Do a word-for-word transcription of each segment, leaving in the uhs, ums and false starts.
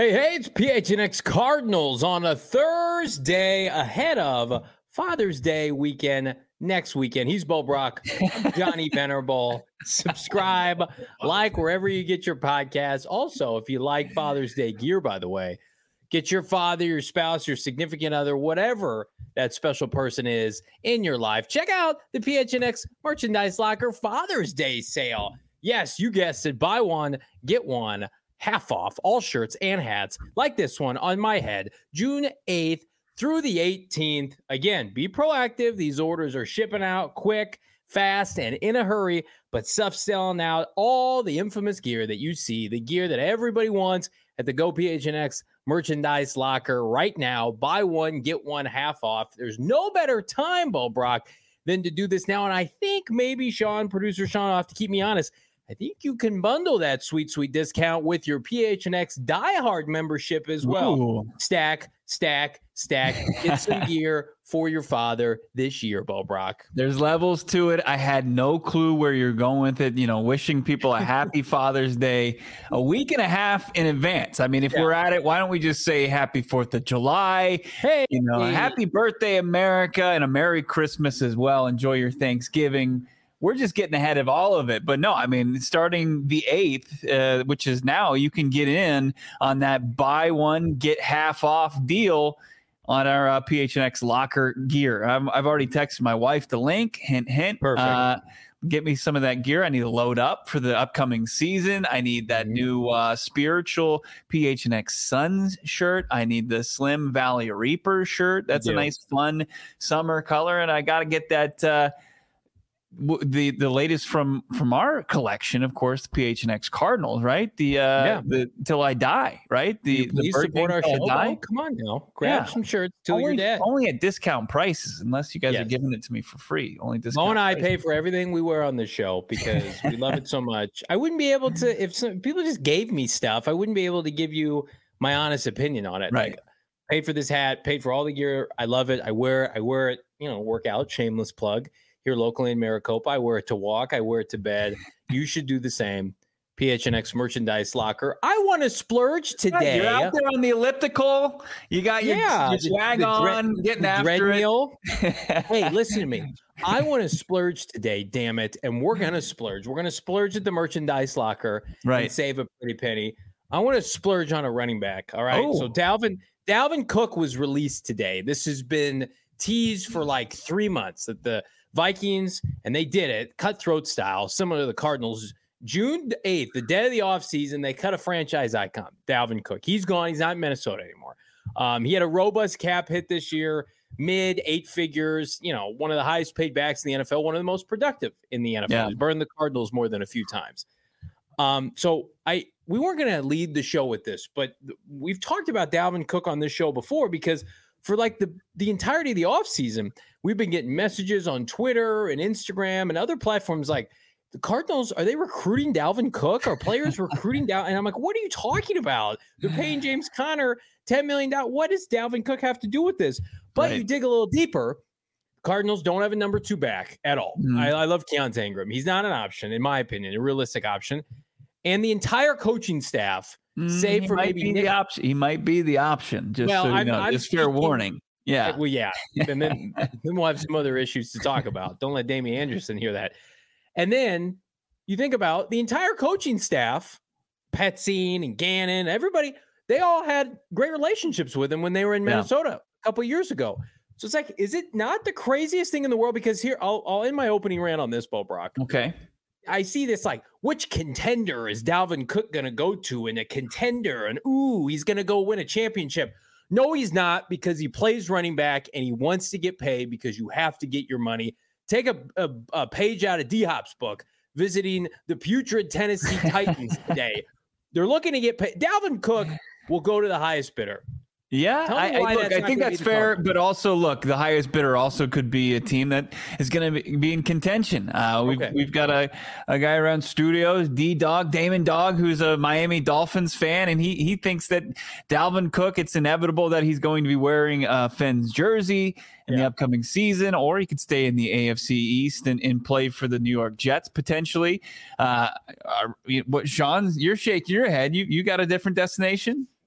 Hey, hey, it's P H N X Cardinals on a Thursday ahead of Father's Day weekend next weekend. He's Bo Brock. I'm Johnny Venerable. Subscribe, like wherever you get your podcasts. Also, if you like Father's Day gear, by the way, get your father, your spouse, your significant other, whatever that special person is in your life. Check out the P H N X Merchandise Locker Father's Day sale. Yes, you guessed it. Buy one, get one. Half off all shirts and hats like this one on my head, June eighth through the eighteenth. Again, be proactive. These orders are shipping out quick, fast, and in a hurry, but stuff's selling out. All the infamous gear that you see, the gear that everybody wants at the Go P H N X Merchandise Locker right now. Buy one, get one half off. There's no better time, Bo Brock, than to do this now. And I think maybe Sean, producer Sean, will have to keep me honest. I think you can bundle that sweet, sweet discount with your P H N X diehard membership as well. Ooh. Stack, stack, stack. Get some gear for your father this year, Bo Brock. There's levels to it. I had no clue where you're going with it. You know, wishing people a happy Father's Day a week and a half in advance. I mean, if yeah. we're at it, why don't we just say happy fourth of July? Hey, you know, hey. happy birthday, America, and a Merry Christmas as well. Enjoy your Thanksgiving. We're just getting ahead of all of it. But no, I mean, starting the eighth, uh, which is now, you can get in on that buy one, get half off deal on our uh, P H N X locker gear. I'm, I've already texted my wife the link. Hint, hint. Perfect. Uh, get me some of that gear. I need to load up for the upcoming season. I need that Mm-hmm. new uh, spiritual P H N X Suns shirt. I need the Slim Valley Reaper shirt. That's a nice, fun summer color. And I got to get that uh, – the the latest from from our collection, of course, the P H N X Cardinals, right? The uh yeah. the Till I Die, right? The the support our show. Oh, come on now, grab yeah. some shirts till only, you're dead. Only at discount prices, unless you guys yes. are giving it to me for free. Only discount. Mo and I prices. pay for everything we wear on the show because we love it so much. I wouldn't be able to if some people just gave me stuff. I wouldn't be able to give you my honest opinion on it. Right. Like, paid for this hat, paid for all the gear. I love it. I wear it. I wear it. You know, work out. Shameless plug. Here locally in Maricopa, I wear it to walk. I wear it to bed. You should do the same. P H N X Merchandise Locker. I want to splurge today. You're out there on the elliptical. You got your, yeah, your swag the, the on, dread, getting after treadmill. it. Hey, listen to me. I want to splurge today, damn it. And we're going to splurge. We're going to splurge at the Merchandise Locker right. and save a pretty penny. I want to splurge on a running back. All right. Oh. So Dalvin, Dalvin Cook was released today. This has been teased for like three months that the Vikings, and they did it, cutthroat style, similar to the Cardinals. June eighth, the day of the offseason, they cut a franchise icon, Dalvin Cook. He's gone. He's not in Minnesota anymore. Um, he had a robust cap hit this year, mid eight figures, you know, one of the highest paid backs in the N F L, one of the most productive in the N F L. Yeah. He's burned the Cardinals more than a few times. Um, so I we weren't going to lead the show with this, but we've talked about Dalvin Cook on this show before because for like the, the entirety of the offseason, we've been getting messages on Twitter and Instagram and other platforms like, the Cardinals, are they recruiting Dalvin Cook? Are players recruiting Dalvin? And I'm like, what are you talking about? They're paying James Conner ten million dollars. What does Dalvin Cook have to do with this? But right. you dig a little deeper, Cardinals don't have a number two back at all. Mm-hmm. I, I love Keontae Ingram. He's not an option, in my opinion, a realistic option. And the entire coaching staff, save he for might maybe be Nick, the option. He might be the option. Just well, so you I'm, know, I'm just fair speaking, warning. Yeah. Well, yeah. And then, then we'll have some other issues to talk about. Don't let Damien Anderson hear that. And then you think about the entire coaching staff, Petzine and Gannon, everybody, they all had great relationships with him when they were in Minnesota yeah. a couple of years ago. So it's like, is it not the craziest thing in the world? Because here, I'll, I'll end my opening rant on this, Bo Brock. Okay. I see this like, which contender is Dalvin Cook going to go to in a contender? And, ooh, he's going to go win a championship. No, he's not, because he plays running back and he wants to get paid because you have to get your money. Take a, a, a page out of D-Hop's book, visiting the putrid Tennessee Titans today. They're looking to get paid. Dalvin Cook will go to the highest bidder. Yeah, I, I, look, I think that's fair, but also look, the highest bidder also could be a team that is going to be in contention. Uh, we've okay. we've got a, a guy around studios, D Dog, Damon Dog, who's a Miami Dolphins fan, and he he thinks that Dalvin Cook, it's inevitable that he's going to be wearing uh, Fenn's jersey in yeah. the upcoming season, or he could stay in the A F C East and, and play for the New York Jets potentially. Uh, are, what, Sean, you're shaking your head. You you got a different destination?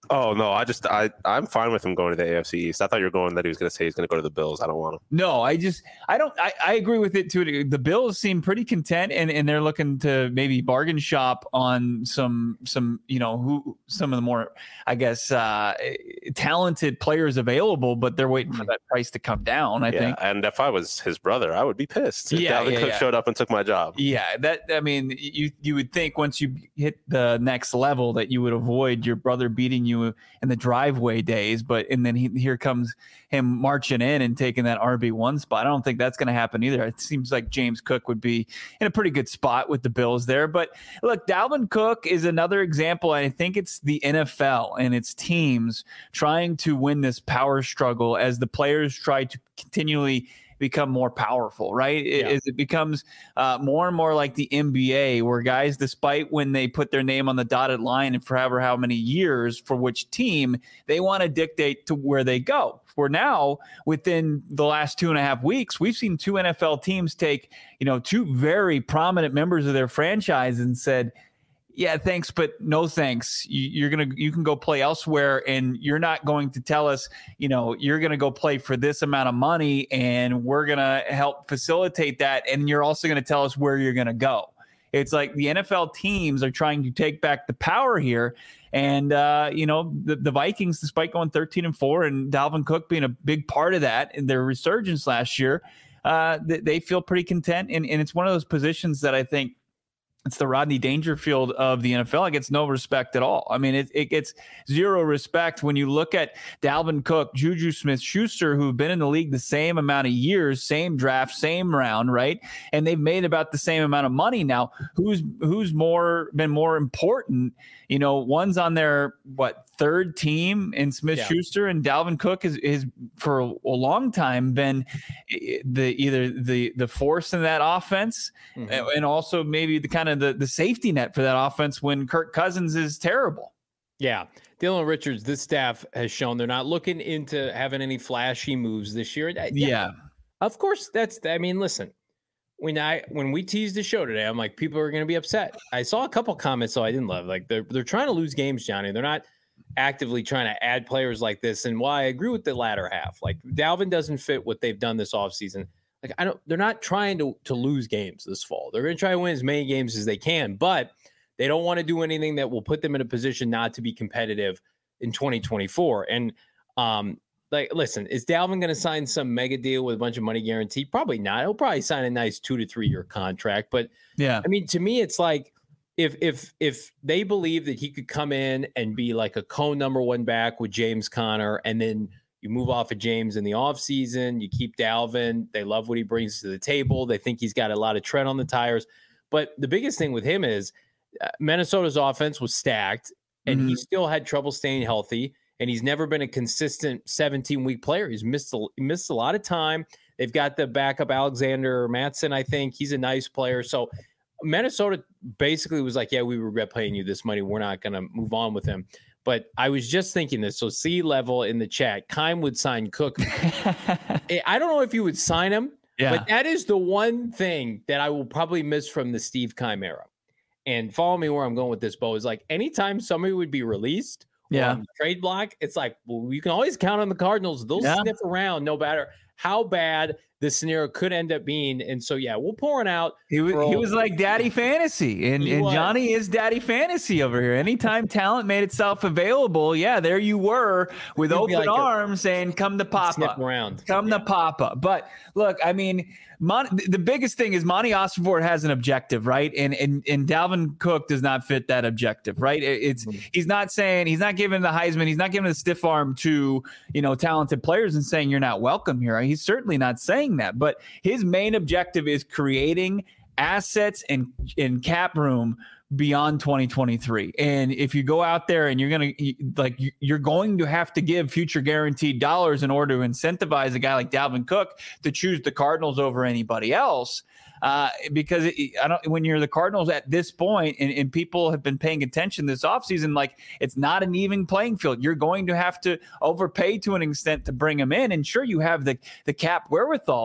Oh no, I just I I'm fine with him going to the A F C East. I thought you were going that he was going to say he's going to go to the Bills. I don't want him. No, I just I don't I, I agree with it too. The Bills seem pretty content, and, and they're looking to maybe bargain shop on some some you know who some of the more I guess uh, talented players available, but they're waiting for that price to come down. I yeah, think. And if I was his brother, I would be pissed. If yeah, Dalvin yeah, Cook yeah. showed up and took my job. Yeah, that I mean, you you would think once you hit the next level that you would avoid your brother beating you in the driveway days, but and then he, here comes him marching in and taking that R B one spot. I don't think that's going to happen either. It seems like James Cook would be in a pretty good spot with the Bills there. But look, Dalvin Cook is another example. I think it's the N F L and its teams trying to win this power struggle as the players try to continually become more powerful, right? Yeah. As it becomes uh, more and more like the N B A, where guys, despite when they put their name on the dotted line and forever how many years for which team, they want to dictate to where they go. For now, within the last two and a half weeks, we've seen two N F L teams take, you know, two very prominent members of their franchise and said, yeah, thanks, but no thanks. You're going to, you can go play elsewhere, and you're not going to tell us, you know, you're going to go play for this amount of money and we're going to help facilitate that. And you're also going to tell us where you're going to go. It's like the N F L teams are trying to take back the power here. And, uh, you know, the, the Vikings, despite going thirteen and four and Dalvin Cook being a big part of that in their resurgence last year, uh, they, they feel pretty content. And, and it's one of those positions that I think, it's the Rodney Dangerfield of the N F L. It gets no respect at all. I mean, it, it gets zero respect when you look at Dalvin Cook, Juju Smith-Schuster, who've been in the league the same amount of years, same draft, same round, right? And they've made about the same amount of money now. Who's who's more been more important? You know, one's on their, what, third team in Smith-Schuster, yeah. and Dalvin Cook is, is for a long time been the either the the force in that offense, mm-hmm. and also maybe the kind of the, the safety net for that offense when Kirk Cousins is terrible. Yeah. Dylan Richards, this staff has shown they're not looking into having any flashy moves this year. Yeah. yeah. Of course, that's, I mean, listen, when I, when we teased the show today, I'm like, people are going to be upset. I saw a couple comments, so I didn't love, like they're, they're trying to lose games, Johnny. They're not actively trying to add players like this. And while I agree with the latter half, like Dalvin doesn't fit what they've done this offseason. Like, I don't, they're not trying to, to lose games this fall. They're going to try to win as many games as they can, but they don't want to do anything that will put them in a position not to be competitive in twenty twenty-four. And, um, like, listen, is Dalvin going to sign some mega deal with a bunch of money guaranteed? Probably not. He'll probably sign a nice two to three year contract. But yeah, I mean, to me, it's like, if, if, if they believe that he could come in and be like a co-number one back with James Conner, and then you move off of James in the offseason, you keep Dalvin. They love what he brings to the table. They think he's got a lot of tread on the tires. But the biggest thing with him is uh, Minnesota's offense was stacked, and mm-hmm. he still had trouble staying healthy, and he's never been a consistent seventeen-week player. He's missed a, he missed a lot of time. They've got the backup Alexander Mattson, I think. He's a nice player. So Minnesota basically was like, yeah, we regret paying you this money. We're not going to move on with him. But I was just thinking this. So C level in the chat, Kime would sign Cook. I don't know if you would sign him, yeah. but that is the one thing that I will probably miss from the Steve Kime era. And follow me where I'm going with this, Bo, is like anytime somebody would be released yeah. on the trade block, it's like, well, you can always count on the Cardinals. They'll yeah. sniff around no matter how bad the scenario could end up being. And so, yeah, we'll pour it out. He was, he was like Daddy Fantasy, and, and Johnny is Daddy Fantasy over here. Anytime talent made itself available, yeah, there you were with You'd open like arms a, saying, come to Papa. Around. Come yeah. to Papa. But look, I mean, Mon- the biggest thing is Monty Ossenfort has an objective, right? And and and Dalvin Cook does not fit that objective, right? It's mm-hmm. he's not saying, he's not giving the Heisman, he's not giving the stiff arm to, you know, talented players and saying you're not welcome here. He's certainly not saying that, but his main objective is creating assets and in cap room beyond twenty twenty-three. And if you go out there and you're going to like, you're going to have to give future guaranteed dollars in order to incentivize a guy like Dalvin Cook to choose the Cardinals over anybody else. Uh, because it, I don't, when you're the Cardinals at this point, and, and people have been paying attention this offseason, like it's not an even playing field. You're going to have to overpay to an extent to bring him in. And sure, you have the, the cap wherewithal,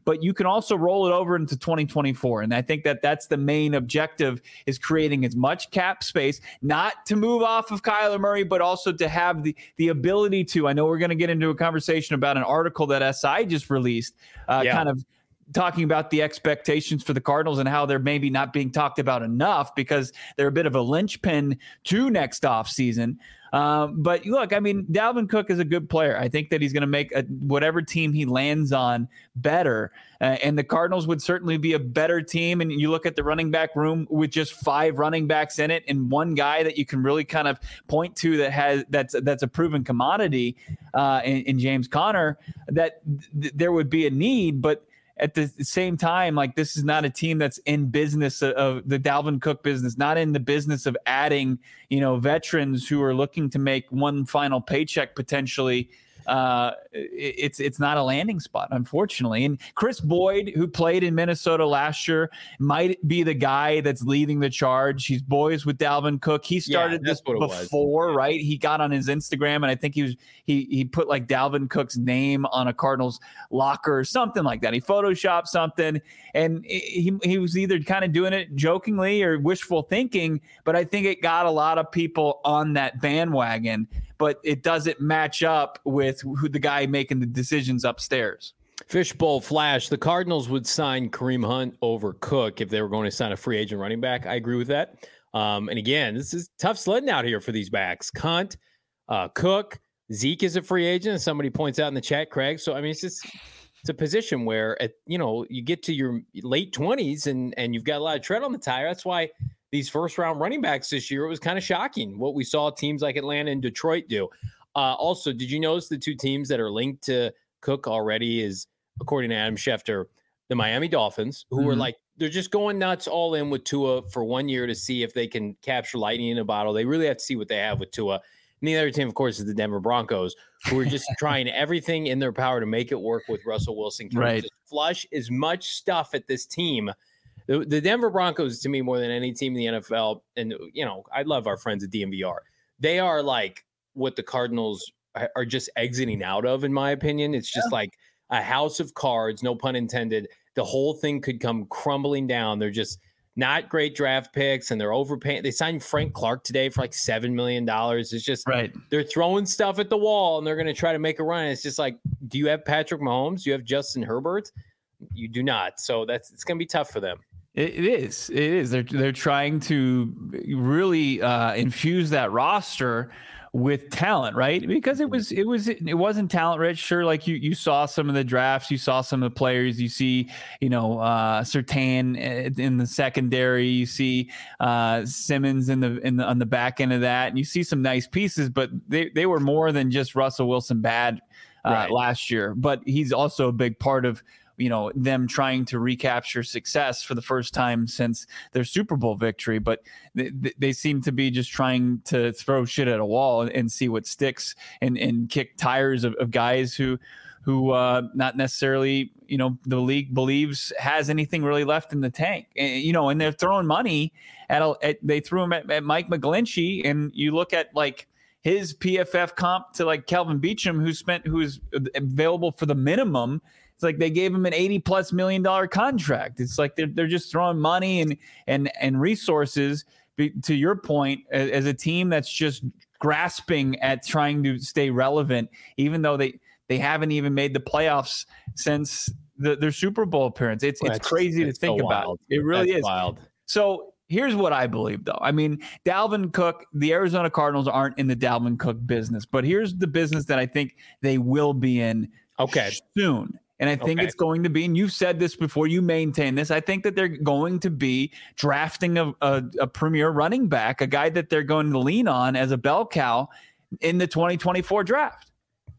but you can also roll it over into twenty twenty-four. And I think that that's the main objective, is creating as much cap space, not to move off of Kyler Murray, but also to have the, the ability to, I know we're going to get into a conversation about an article that S I just released, uh, yeah. kind of talking about the expectations for the Cardinals and how they're maybe not being talked about enough because they're a bit of a linchpin to next offseason. Um, but look, I mean, Dalvin Cook is a good player. I think that he's going to make a, whatever team he lands on better. Uh, and the Cardinals would certainly be a better team. And you look at the running back room with just five running backs in it and one guy that you can really kind of point to that has that's that's a proven commodity uh, in, in James Conner, that th- there would be a need. But at the same time, like, this is not a team that's in business of, of the Dalvin Cook business, not in the business of adding, you know, veterans who are looking to make one final paycheck potentially. Uh, it's it's not a landing spot, unfortunately. And Chris Boyd, who played in Minnesota last year, might be the guy that's leading the charge. He's boys with Dalvin Cook. He started yeah, this before, right? He got on his Instagram, and I think he was he he put like Dalvin Cook's name on a Cardinals locker or something like that. He photoshopped something, and he he was either kind of doing it jokingly or wishful thinking. But I think it got a lot of people on that bandwagon. But it doesn't match up with who the guy making the decisions upstairs. Fishbowl Flash, the Cardinals would sign Kareem Hunt over Cook if they were going to sign a free agent running back. I agree with that. Um, and again, this is tough sledding out here for these backs. Hunt, uh, Cook, Zeke is a free agent, as somebody points out in the chat, Craig. So, I mean, it's just it's a position where, at, you know, you get to your late twenties and, and you've got a lot of tread on the tire. That's why these first-round running backs this year, it was kind of shocking what we saw teams like Atlanta and Detroit do. Uh, also, did you notice the two teams that are linked to Cook already is, according to Adam Schefter, the Miami Dolphins, who mm-hmm. are like, they're just going nuts all in with Tua for one year to see if they can capture lightning in a bottle. They really have to see what they have with Tua. And the other team, of course, is the Denver Broncos, who are just trying everything in their power to make it work with Russell Wilson. Can right. just flush as much stuff at this team. The, the Denver Broncos, to me, more than any team in the N F L, and, you know, I love our friends at D M V R. They are like what the Cardinals are just exiting out of, in my opinion. It's just yeah. like a house of cards, no pun intended. The whole thing could come crumbling down. They're just not great draft picks, and they're overpaying. They signed Frank Clark today for like seven million dollars. It's just right. They're throwing stuff at the wall, and they're going to try to make a run. It's just like, do you have Patrick Mahomes? Do you have Justin Herbert? You do not. So that's it's going to be tough for them. It is. It is. They're they're trying to really uh, infuse that roster with talent, right? Because it was it was it wasn't talent rich. Sure, like you you saw some of the drafts, you saw some of the players. You see, you know, uh, Surtain in the secondary. You see uh, Simmons in the in the on the back end of that, and you see some nice pieces. But they they were more than just Russell Wilson bad uh, right. last year. But he's also a big part of, you know, them trying to recapture success for the first time since their Super Bowl victory. But they, they seem to be just trying to throw shit at a wall and, and see what sticks and, and kick tires of, of guys who, who uh, not necessarily, you know, the league believes has anything really left in the tank. And, you know, and they're throwing money at, a, at they threw him at, at Mike McGlinchey. And you look at like his P F F comp to like Kelvin Beachum, who spent, who's available for the minimum. It's like they gave him an eighty plus million dollar contract. It's like they're they're just throwing money and and and resources, to your point, as, as a team that's just grasping at trying to stay relevant, even though they they haven't even made the playoffs since the, their Super Bowl appearance. It's well, it's crazy to think so about. Wild. It really that's is wild. So here's what I believe, though. I mean, Dalvin Cook, the Arizona Cardinals aren't in the Dalvin Cook business, but here's the business that I think they will be in okay. soon. And I think okay. it's going to be, and you've said this before, you maintain this, I think that they're going to be drafting a, a, a premier running back, a guy that they're going to lean on as a bell cow in the twenty twenty-four draft.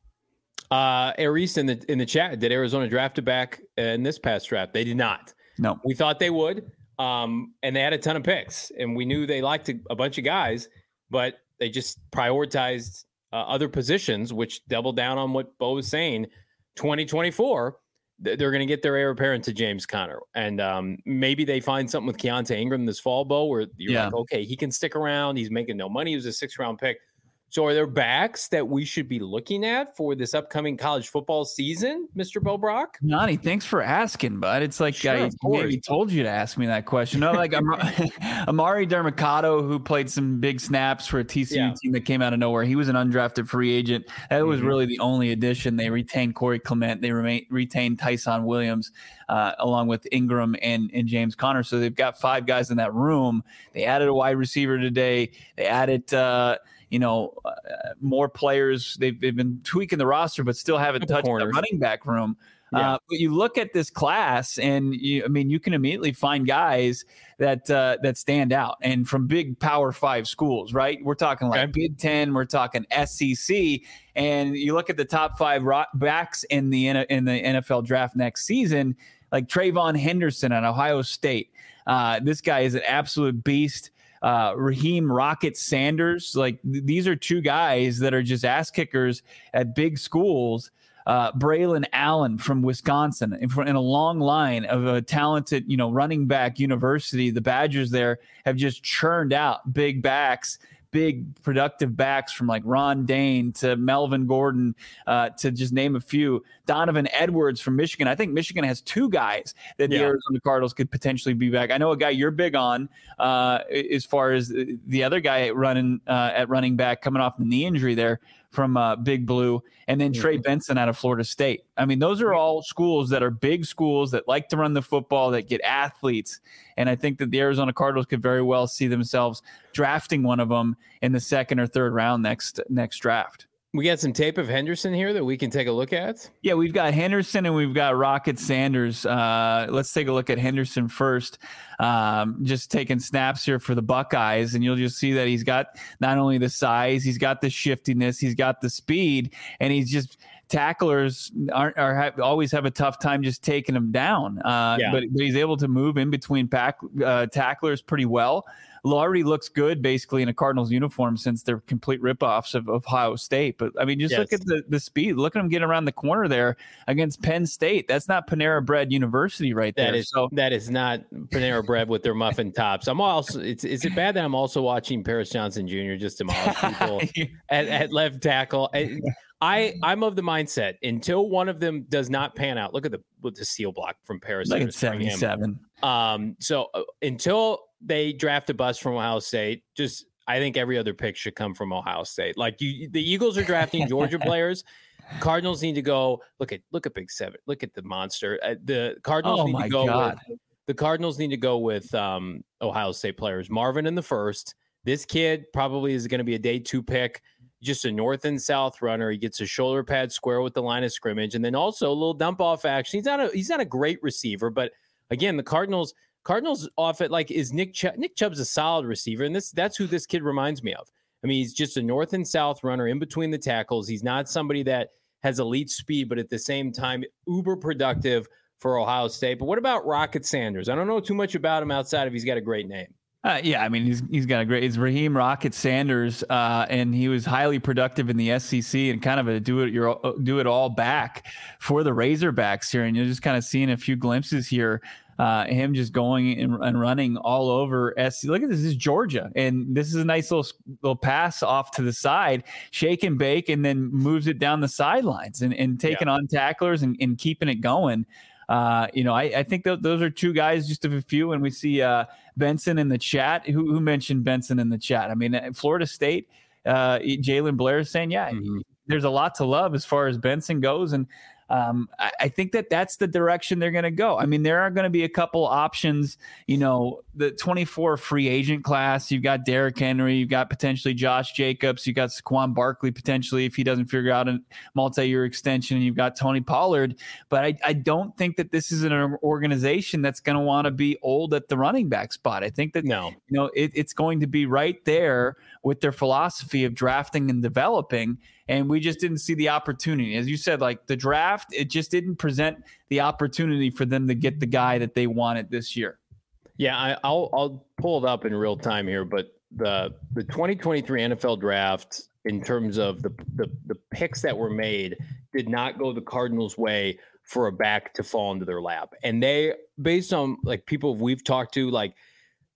Uh, Aries in the in the chat, did Arizona draft a back in this past draft? They did not. No. We thought they would, um, and they had a ton of picks, and we knew they liked a, a bunch of guys, but they just prioritized uh, other positions, which doubled down on what Bo was saying. twenty twenty-four, they're going to get their heir apparent to James Conner. And um, maybe they find something with Keontae Ingram this fall, Bo, where you're yeah. like, okay, he can stick around. He's making no money. He was a six-round pick. So are there backs that we should be looking at for this upcoming college football season, Mister Bo Brock? Nani, thanks for asking, bud. It's like sure, I maybe told you to ask me that question. No, like Amari Dermicado, who played some big snaps for a T C U yeah. team that came out of nowhere. He was an undrafted free agent. That was mm-hmm. really the only addition. They retained Corey Clement. They remain, retained Tyson Williams, uh, along with Ingram and, and James Conner. So they've got five guys in that room. They added a wide receiver today. They added uh, – you know, uh, more players. They've, they've been tweaking the roster, but still haven't touched the running back room. Yeah. Uh, but you look at this class, and you, I mean, you can immediately find guys that uh, that stand out, and from big Power Five schools, right? We're talking like okay. Big Ten, we're talking S E C, and you look at the top five backs in the in the N F L draft next season, like Trayvon Henderson at Ohio State. Uh, this guy is an absolute beast. Uh, Raheem Rocket Sanders, like th- these are two guys that are just ass kickers at big schools. Uh, Braylon Allen from Wisconsin, in, in a long line of a talented, you know, running back university. The Badgers there have just churned out big backs, big productive backs from like Ron Dane to Melvin Gordon, uh, to just name a few. Donovan Edwards from Michigan. I think Michigan has two guys that yeah. the Arizona Cardinals could potentially be back. I know a guy you're big on uh, as far as the other guy running uh, at running back coming off the knee injury there from uh, Big Blue, and then Trey Benson out of Florida State. I mean, those are all schools that are big schools that like to run the football, that get athletes. And I think that the Arizona Cardinals could very well see themselves drafting one of them in the second or third round next next draft. We got some tape of Henderson here that we can take a look at. Yeah, we've got Henderson and we've got Rocket Sanders. Uh, let's take a look at Henderson first. Um, just taking snaps here for the Buckeyes, and you'll just see that he's got not only the size, he's got the shiftiness, he's got the speed, and he's just tacklers aren't are have, always have a tough time just taking him down. Uh, yeah. but, but he's able to move in between pack, uh, tacklers pretty well. Already looks good basically in a Cardinals uniform since they're complete ripoffs of, of Ohio State. But I mean, just yes. look at the, the speed. Look at him get around the corner there against Penn State. That's not Panera Bread University right there. That is so that is not Panera Bread with their muffin tops. I'm also. It's is it bad that I'm also watching Paris Johnson Junior just demolish people at, at left tackle? I, I I'm of the mindset until one of them does not pan out. Look at the with the seal block from Paris. Like at seventy-seven. Um. So uh, until they draft a bust from Ohio State, just I think every other pick should come from Ohio State. Like you, the Eagles are drafting Georgia players. Cardinals need to go look at look at Big Seven. Look at the monster. Uh, the Cardinals oh need my to go. God. With, the Cardinals need to go with um, Ohio State players. Marvin in the first. This kid probably is going to be a day two pick. Just a north and south runner. He gets a shoulder pad square with the line of scrimmage, and then also a little dump off action. He's not a he's not a great receiver, but again, the Cardinals. Cardinals off it like is Nick Chubb. Nick Chubb's a solid receiver, and this that's who this kid reminds me of. I mean, he's just a north and south runner in between the tackles. He's not somebody that has elite speed, but at the same time, uber productive for Ohio State. But what about Rocket Sanders? I don't know too much about him outside of he's got a great name. Uh, yeah, I mean, he's he's got a great. It's Raheem Rocket Sanders, uh, and he was highly productive in the S E C and kind of a do it your do it all back for the Razorbacks here. And you're just kind of seeing a few glimpses here. Uh, him just going and, and running all over S C. Look at this. This is Georgia. And this is a nice little little pass off to the side, shake and bake, and then moves it down the sidelines and, and taking yeah. on tacklers and, and keeping it going. Uh, you know, I, I think th- those are two guys, just of a few. And we see uh, Benson in the chat. Who, who mentioned Benson in the chat? I mean, Florida State, uh, Jalen Blair is saying, yeah, mm-hmm. there's a lot to love as far as Benson goes. And Um, I, I think that that's the direction they're going to go. I mean, there are going to be a couple options, you know, the twenty-four free agent class. You've got Derrick Henry, you've got potentially Josh Jacobs, you've got Saquon Barkley potentially if he doesn't figure out a multi-year extension, and you've got Tony Pollard. But I, I don't think that this is an organization that's going to want to be old at the running back spot. I think that, no. you know, it, it's going to be right there with their philosophy of drafting and developing. And we just didn't see the opportunity. As you said, like the draft, it just didn't present the opportunity for them to get the guy that they wanted this year. Yeah, I, I'll I'll pull it up in real time here, but the the twenty twenty-three N F L draft, in terms of the, the the picks that were made, did not go the Cardinals' way for a back to fall into their lap. And they, based on like people we've talked to, like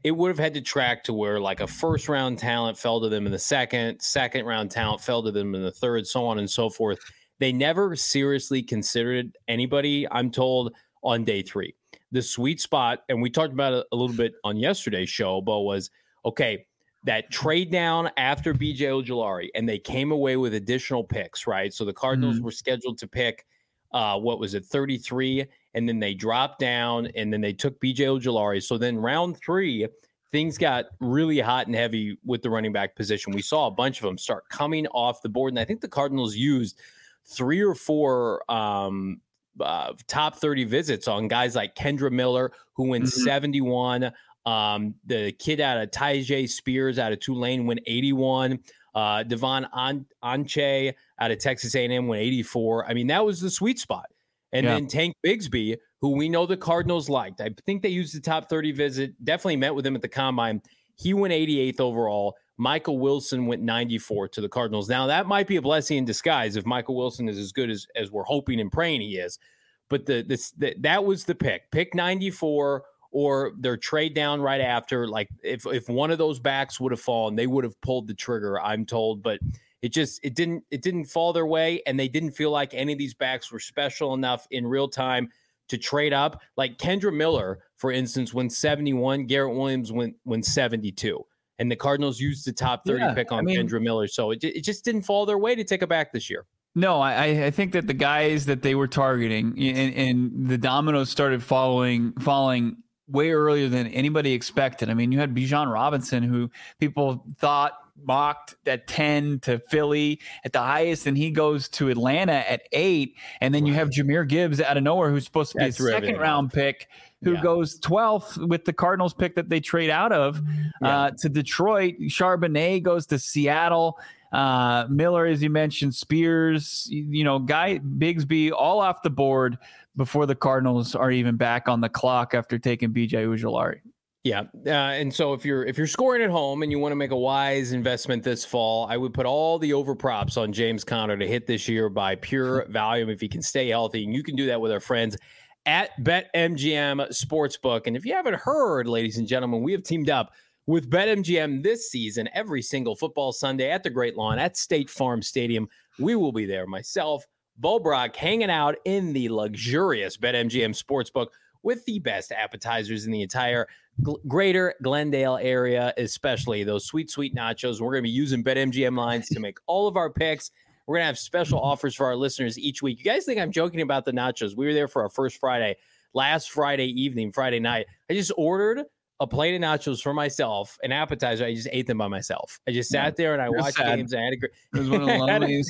it would have had to track to where like a first round talent fell to them in the second, second round talent fell to them in the third, so on and so forth. They never seriously considered anybody, I'm told, on day three. The sweet spot, and we talked about it a little bit on yesterday's show, Bo, was, okay, that trade down after B J Ojulari, and they came away with additional picks, right? So the Cardinals mm-hmm. were scheduled to pick, uh, what was it, thirty-three, and then they dropped down, and then they took B J Ojulari. So then round three, things got really hot and heavy with the running back position. We saw a bunch of them start coming off the board, and I think the Cardinals used three or four um, uh, top thirty visits on guys like Kendra Miller, who went mm-hmm. seventy-one. Um, the kid out of Tyjae Spears out of Tulane went eighty-one. Uh, Devon An- Anche out of Texas A and M went eighty-four. I mean, that was the sweet spot. And yeah. then Tank Bigsby, who we know the Cardinals liked. I think they used the top thirty visit, definitely met with him at the Combine. He went eighty-eighth overall. Michael Wilson went ninety-fourth to the Cardinals. Now, that might be a blessing in disguise if Michael Wilson is as good as, as we're hoping and praying he is. But the, this, the that was the pick. Pick ninety-four, or their trade down right after. Like, if if one of those backs would have fallen, they would have pulled the trigger, I'm told. But it just it didn't it didn't fall their way, and they didn't feel like any of these backs were special enough in real time to trade up. Like Kendra Miller, for instance, went seventy-one. Garrett Williams went went seventy-two. And the Cardinals used the top thirty yeah, pick on I mean, Kendra Miller. So it, it just didn't fall their way to take it back this year. No, I, I think that the guys that they were targeting and, and the dominoes started following, falling way earlier than anybody expected. I mean, you had Bijan Robinson, who people thought mocked at ten to Philly at the highest, and he goes to Atlanta at eight. And then you have Jahmyr Gibbs out of nowhere, who's supposed to be That's a second round pick, who yeah. goes twelfth with the Cardinals pick that they trade out of yeah. uh, to Detroit. Charbonnet goes to Seattle. Uh, Miller, as you mentioned, Spears, you know, Guy Bigsby, all off the board before the Cardinals are even back on the clock after taking B J Ojulari. Yeah, uh, and so if you're if you're scoring at home and you want to make a wise investment this fall, I would put all the over props on James Conner to hit this year by pure volume if he can stay healthy, and you can do that with our friends at BetMGM Sportsbook. And if you haven't heard, ladies and gentlemen, we have teamed up with BetMGM this season every single football Sunday at the Great Lawn at State Farm Stadium. We will be there, myself, Bo Brock, hanging out in the luxurious BetMGM Sportsbook with the best appetizers in the entire G- greater Glendale area, especially those sweet, sweet nachos. We're going to be using BetMGM lines to make all of our picks. We're going to have special offers for our listeners each week. You guys think I'm joking about the nachos? We were there for our first Friday, last Friday evening, Friday night. I just ordered a plate of nachos for myself, an appetizer. I just ate them by myself. I just sat there and I You're watched sad. games. I had a great. It was one of the loneliest.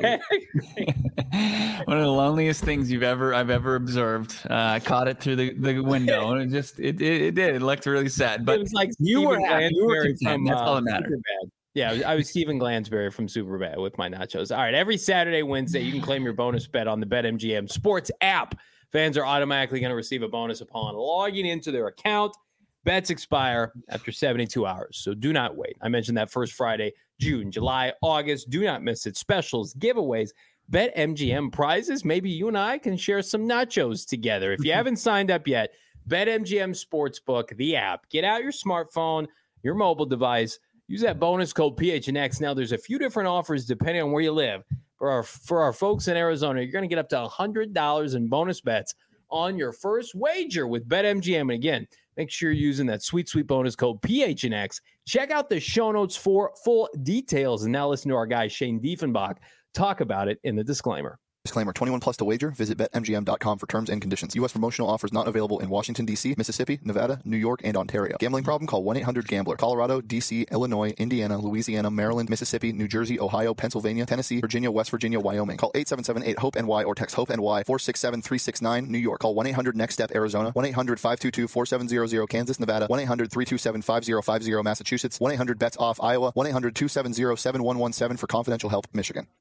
one of the loneliest things you've ever I've ever observed. Uh, I caught it through the, the window, and it just it, it it did. It looked really sad, but it was like you were happy. You were content. That's all that mattered. Yeah, I was Stephen Glansberry from Superbad with my nachos. All right, every Saturday, Wednesday, you can claim your bonus bet on the BetMGM Sports app. Fans are automatically going to receive a bonus upon logging into their account. Bets expire after seventy-two hours, so do not wait. I mentioned that first Friday, June, July, August. Do not miss it. Specials, giveaways, BetMGM prizes. Maybe you and I can share some nachos together. If you haven't signed up yet, BetMGM Sportsbook, the app. Get out your smartphone, your mobile device. Use that bonus code P H N X. Now, there's a few different offers depending on where you live. For our, for our folks in Arizona, you're going to get up to one hundred dollars in bonus bets on your first wager with BetMGM. And again, make sure you're using that sweet, sweet bonus code P H N X. Check out the show notes for full details. And now listen to our guy, Shane Diefenbach, talk about it in the disclaimer. Disclaimer, twenty-one plus to wager. Visit Bet M G M dot com for terms and conditions. U S promotional offers not available in Washington, D C, Mississippi, Nevada, New York, and Ontario. Gambling problem? Call one eight hundred gambler. Colorado, D C, Illinois, Indiana, Louisiana, Maryland, Mississippi, New Jersey, Ohio, Pennsylvania, Tennessee, Virginia, West Virginia, Wyoming. Call eight seven seven eight hope N Y or text HOPE-NY four six seven three six nine. New York. Call one eight hundred next step Arizona. one eight hundred five two two four seven zero zero. Kansas, Nevada. one eight hundred three two seven five zero five zero. Massachusetts. one eight hundred bets off Iowa. one eight hundred two seven zero seven one one seven for confidential help, Michigan.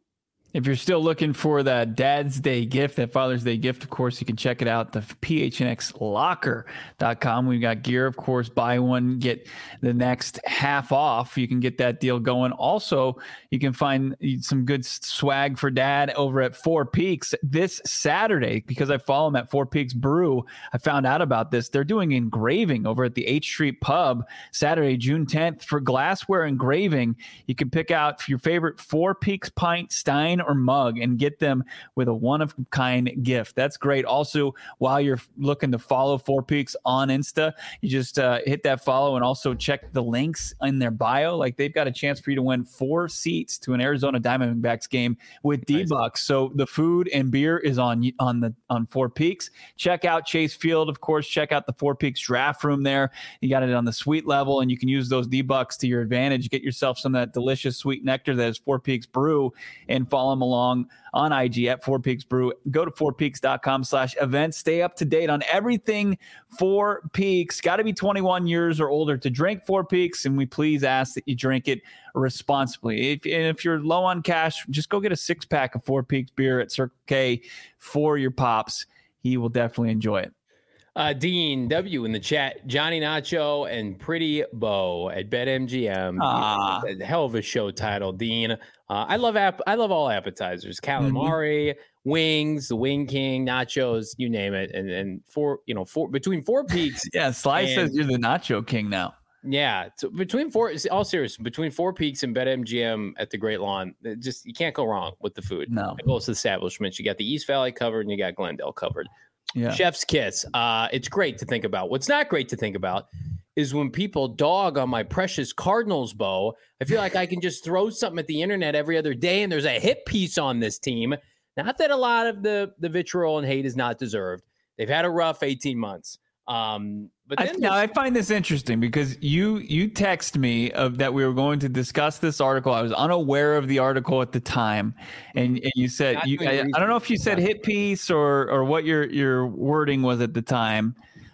If you're still looking for that Dad's Day gift, that Father's Day gift, of course, you can check it out, the P H N X locker dot com. We've got gear, of course, buy one, get the next half off. You can get that deal going. Also, you can find some good swag for Dad over at Four Peaks this Saturday, because I follow them at Four Peaks Brew. I found out about this. They're doing engraving over at the H Street Pub Saturday, June tenth. For glassware engraving, you can pick out your favorite Four Peaks pint, stein, or mug and get them with a one-of-a-kind gift. That's great. Also, while you're looking to follow Four Peaks on Insta, you just uh, hit that follow and also check the links in their bio. Like, they've got a chance for you to win four seats to an Arizona Diamondbacks game with D-Bucks. So the food and beer is on on the on Four Peaks. Check out Chase Field, of course. Check out the Four Peaks draft room there. You got it on the suite level, and you can use those D-Bucks to your advantage. Get yourself some of that delicious sweet nectar that is Four Peaks Brew, and follow them along on I G at Four Peaks Brew. Go to four peaks dot com slash events. Stay up to date on everything Four Peaks. Got to be twenty-one years or older to drink Four Peaks, and we please ask that you drink it responsibly. If, and if you're low on cash, just go get a six-pack of Four Peaks beer at Circle K for your pops. He will definitely enjoy it. Uh, Dean W in the chat, Johnny Nacho and Pretty Bo at BetMGM. Ah. A hell of a show title, Dean. Uh, I love app. I love all appetizers, calamari, mm-hmm. wings, the Wing King, nachos, you name it. And and four, you know, four between Four Peaks. Yeah, Sly and, says you're the Nacho King now. Yeah, so between four, all serious, between Four Peaks and BetMGM at the Great Lawn, just you can't go wrong with the food. No, most establishments, you got the East Valley covered, and you got Glendale covered. Yeah. Chef's kiss. Uh, it's great to think about. What's not great to think about is when people dog on my precious Cardinals, Bo. I feel like I can just throw something at the internet every other day, and there's a hit piece on this team. Not that a lot of the the vitriol and hate is not deserved. They've had a rough eighteen months. Um, but then I, now I find this interesting because you you text me of that we were going to discuss this article. I was unaware of the article at the time, and, and you said you, I, I don't know if you said hit piece or or what your your wording was at the time,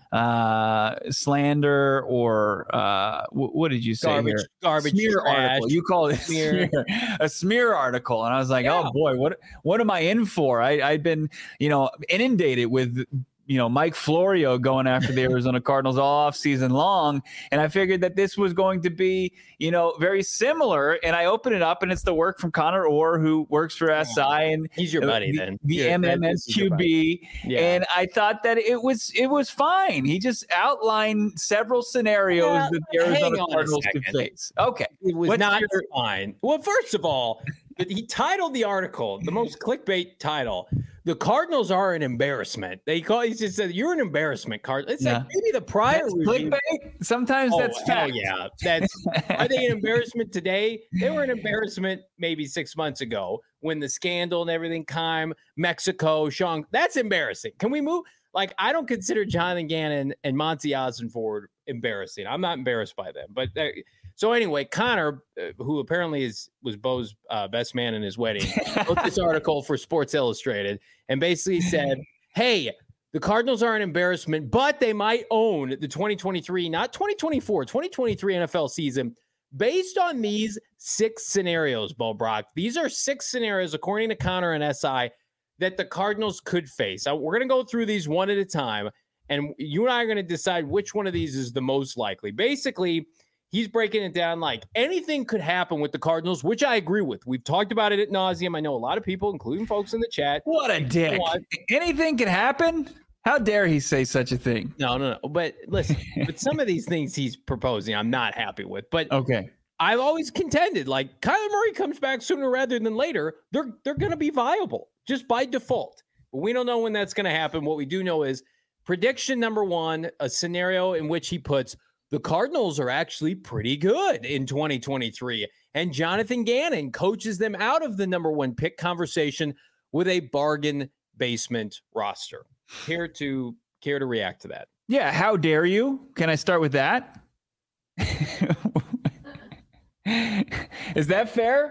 uh, slander or uh, w- what did you say? Garbage, here? garbage, smear trash, article. You called it smear. smear, a smear article, and I was like, yeah. oh boy, what what am I in for? I I'd been you know inundated with. you know, Mike Florio going after the Arizona Cardinals all off season long. And I figured that this was going to be, you know, very similar. And I open it up and it's the work from Connor Orr, who works for S I. And he's your buddy the, then. The yeah, M M S Q B. Yeah. And I thought that it was, it was fine. He just outlined several scenarios yeah, that the Arizona Cardinals could face. Okay. It was What's not your- fine. Well, first of all, he titled the article, the most clickbait title. The Cardinals are an embarrassment. They call he just said you're an embarrassment, Card. It's yeah. like maybe the prior that's review. Clickbait. Sometimes oh, that's hell fact. yeah. That's are they an embarrassment today? They were an embarrassment maybe six months ago when the scandal and everything came. Mexico, Sean. That's embarrassing. Can we move? Like I don't consider Jonathan Gannon and Monty Ossenford embarrassing. I'm not embarrassed by them, but. Uh, So anyway, Connor, uh, who apparently is was Bo's uh, best man in his wedding, wrote this article for Sports Illustrated and basically said, hey, the Cardinals are an embarrassment, but they might own the twenty twenty-three, not twenty twenty-four, twenty twenty-three N F L season based on these six scenarios, Bo Brock. These are six scenarios, according to Connor and S I, that the Cardinals could face. Now, we're going to go through these one at a time, and you and I are going to decide which one of these is the most likely. Basically, he's breaking it down like anything could happen with the Cardinals, which I agree with. We've talked about it at nauseum. I know a lot of people, including folks in the chat. What a dick. Anything can happen? How dare he say such a thing? No, no, no. But listen, but some of these things he's proposing, I'm not happy with. But okay, I've always contended, like Kyler Murray comes back sooner rather than later, they're they're going to be viable just by default. But we don't know when that's going to happen. What we do know is prediction number one, a scenario in which he puts the Cardinals are actually pretty good in twenty twenty-three, and Jonathan Gannon coaches them out of the number one pick conversation with a bargain basement roster. Care to care to react to that? Yeah, how dare you? Can I start with that? Is that fair?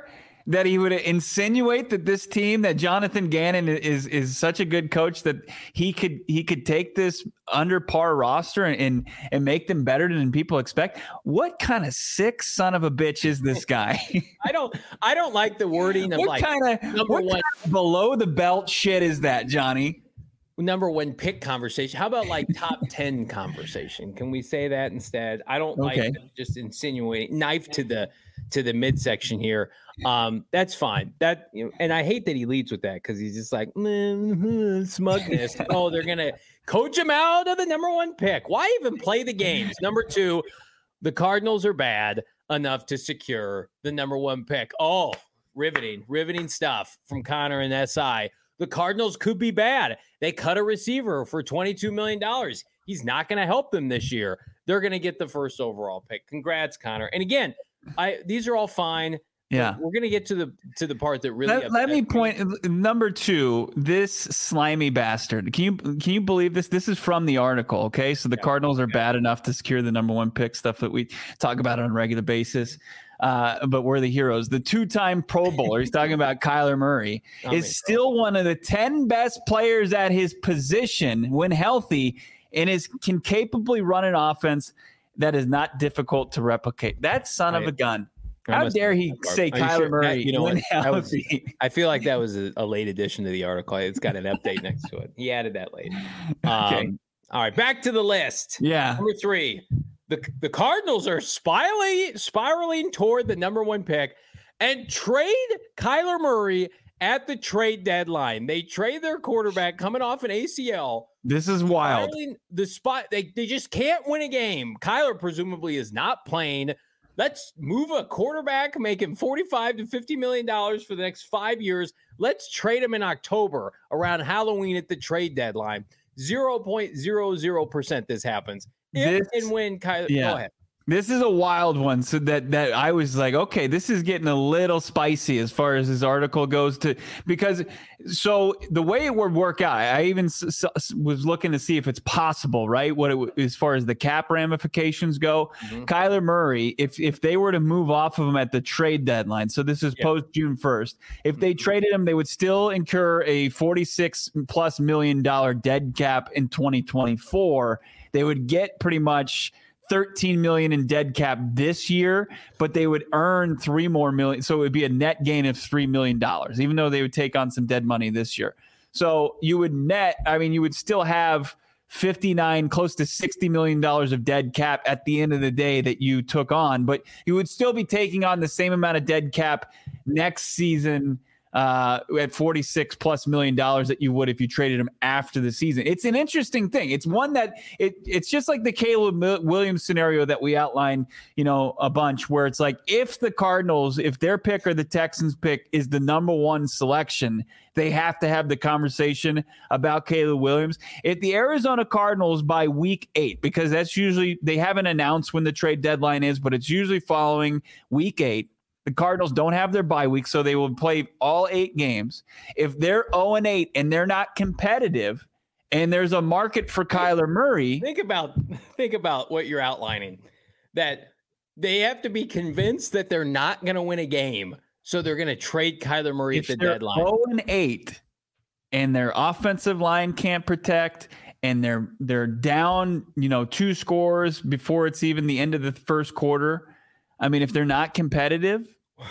that he would insinuate that this team, that Jonathan Gannon is is such a good coach that he could he could take this under par roster and and, and make them better than people expect? What kind of sick son of a bitch is this guy? I don't I don't like the wording of what like kind of number what one kind of below the belt shit is that, Johnny? Number one pick conversation. How about like top ten conversation? Can we say that instead? I don't okay. like just insinuating knife to the to the midsection here. Um, that's fine. That you know, and I hate that he leads with that because he's just like mm-hmm, smugness. Oh, they're gonna coach him out of the number one pick. Why even play the games? Number two, the Cardinals are bad enough to secure the number one pick. Oh, riveting, riveting stuff from Connor and S I. The Cardinals could be bad. They cut a receiver for twenty-two million dollars. He's not going to help them this year. They're going to get the first overall pick. Congrats, Connor. And again, I these are all fine. Yeah, we're going to get to the to the part that really. Let, let me point number two. This slimy bastard. Can you can you believe this? This is from the article. Okay, so the yeah. Cardinals are bad enough to secure the number one pick. Stuff that we talk about on a regular basis. Uh, but we're the heroes. The two-time Pro Bowler, he's talking about Kyler Murray, is still one of the ten best players at his position when healthy, and is can capably run an offense that is not difficult to replicate. That son of a gun. How dare he say Kyler sure? Murray? You know what? Was, I feel like that was a, a late addition to the article. It's got an update next to it. He added that late. Um, okay. All right, back to the list. Yeah. Number three. The, the Cardinals are spiraling, spiraling toward the number one pick and trade Kyler Murray at the trade deadline. They trade their quarterback coming off an A C L. This is wild. The spot they, they just can't win a game. Kyler presumably is not playing. Let's move a quarterback, make him forty-five to fifty million dollars for the next five years. Let's trade him in October around Halloween at the trade deadline. zero point zero zero percent this happens. If this, and when Kyler, yeah. Go ahead. This is a wild one. So that that I was like, okay, this is getting a little spicy as far as this article goes to, because so the way it would work out, I even s- s- was looking to see if it's possible, right? What it, as far as the cap ramifications go, mm-hmm. Kyler Murray, if if they were to move off of him at the trade deadline, so this is yeah. post June first, if they traded him, they would still incur a forty-six plus million dollar dead cap in twenty twenty-four. They would get pretty much thirteen million in dead cap this year, but they would earn three more million. So it would be a net gain of three million dollars, even though they would take on some dead money this year. So you would net, I mean, you would still have fifty-nine, close to sixty million dollars of dead cap at the end of the day that you took on, but you would still be taking on the same amount of dead cap next season uh, at forty-six plus million dollars that you would if you traded him after the season. It's an interesting thing. It's one that it it's just like the Caleb Williams scenario that we outlined, you know, a bunch, where it's like, if the Cardinals, if their pick or the Texans pick is the number one selection, they have to have the conversation about Caleb Williams. If the Arizona Cardinals by week eight, because that's usually, they haven't announced when the trade deadline is, but it's usually following week eight. The Cardinals don't have their bye week, so they will play all eight games. If they're oh and eight and they're not competitive, and there's a market for Kyler Murray. Think about think about what you're outlining. That they have to be convinced that they're not going to win a game, so they're going to trade Kyler Murray at the deadline. oh and eight, and their offensive line can't protect, and they're they're down, you know, two scores before it's even the end of the first quarter. I mean, if they're not competitive,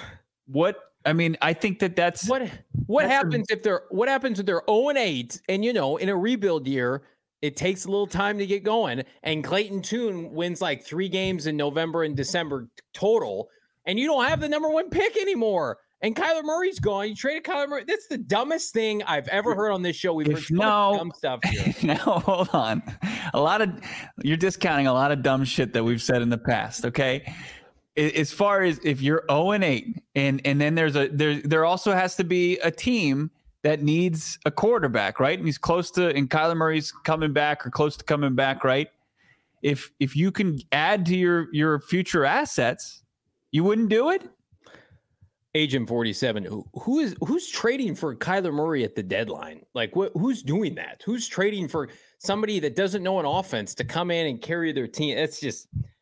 what I mean, I think that that's what what that's happens a, if they're what happens if they're oh and eight, and you know, in a rebuild year, it takes a little time to get going. And Clayton Tune wins like three games in November and December total, and you don't have the number one pick anymore. And Kyler Murray's gone. You traded Kyler Murray. That's the dumbest thing I've ever heard on this show. We've heard so no, much dumb stuff here. Now, hold on. A lot of you're discounting a lot of dumb shit that we've said in the past. Okay. As far as if you're oh and eight, and and then there's a there there also has to be a team that needs a quarterback, right? And he's close to, and Kyler Murray's coming back or close to coming back, right? If if you can add to your your future assets, you wouldn't do it. Agent forty-seven, who, who is who's trading for Kyler Murray at the deadline? Like, what? Who's doing that? Who's trading for somebody that doesn't know an offense to come in and carry their team? That's just.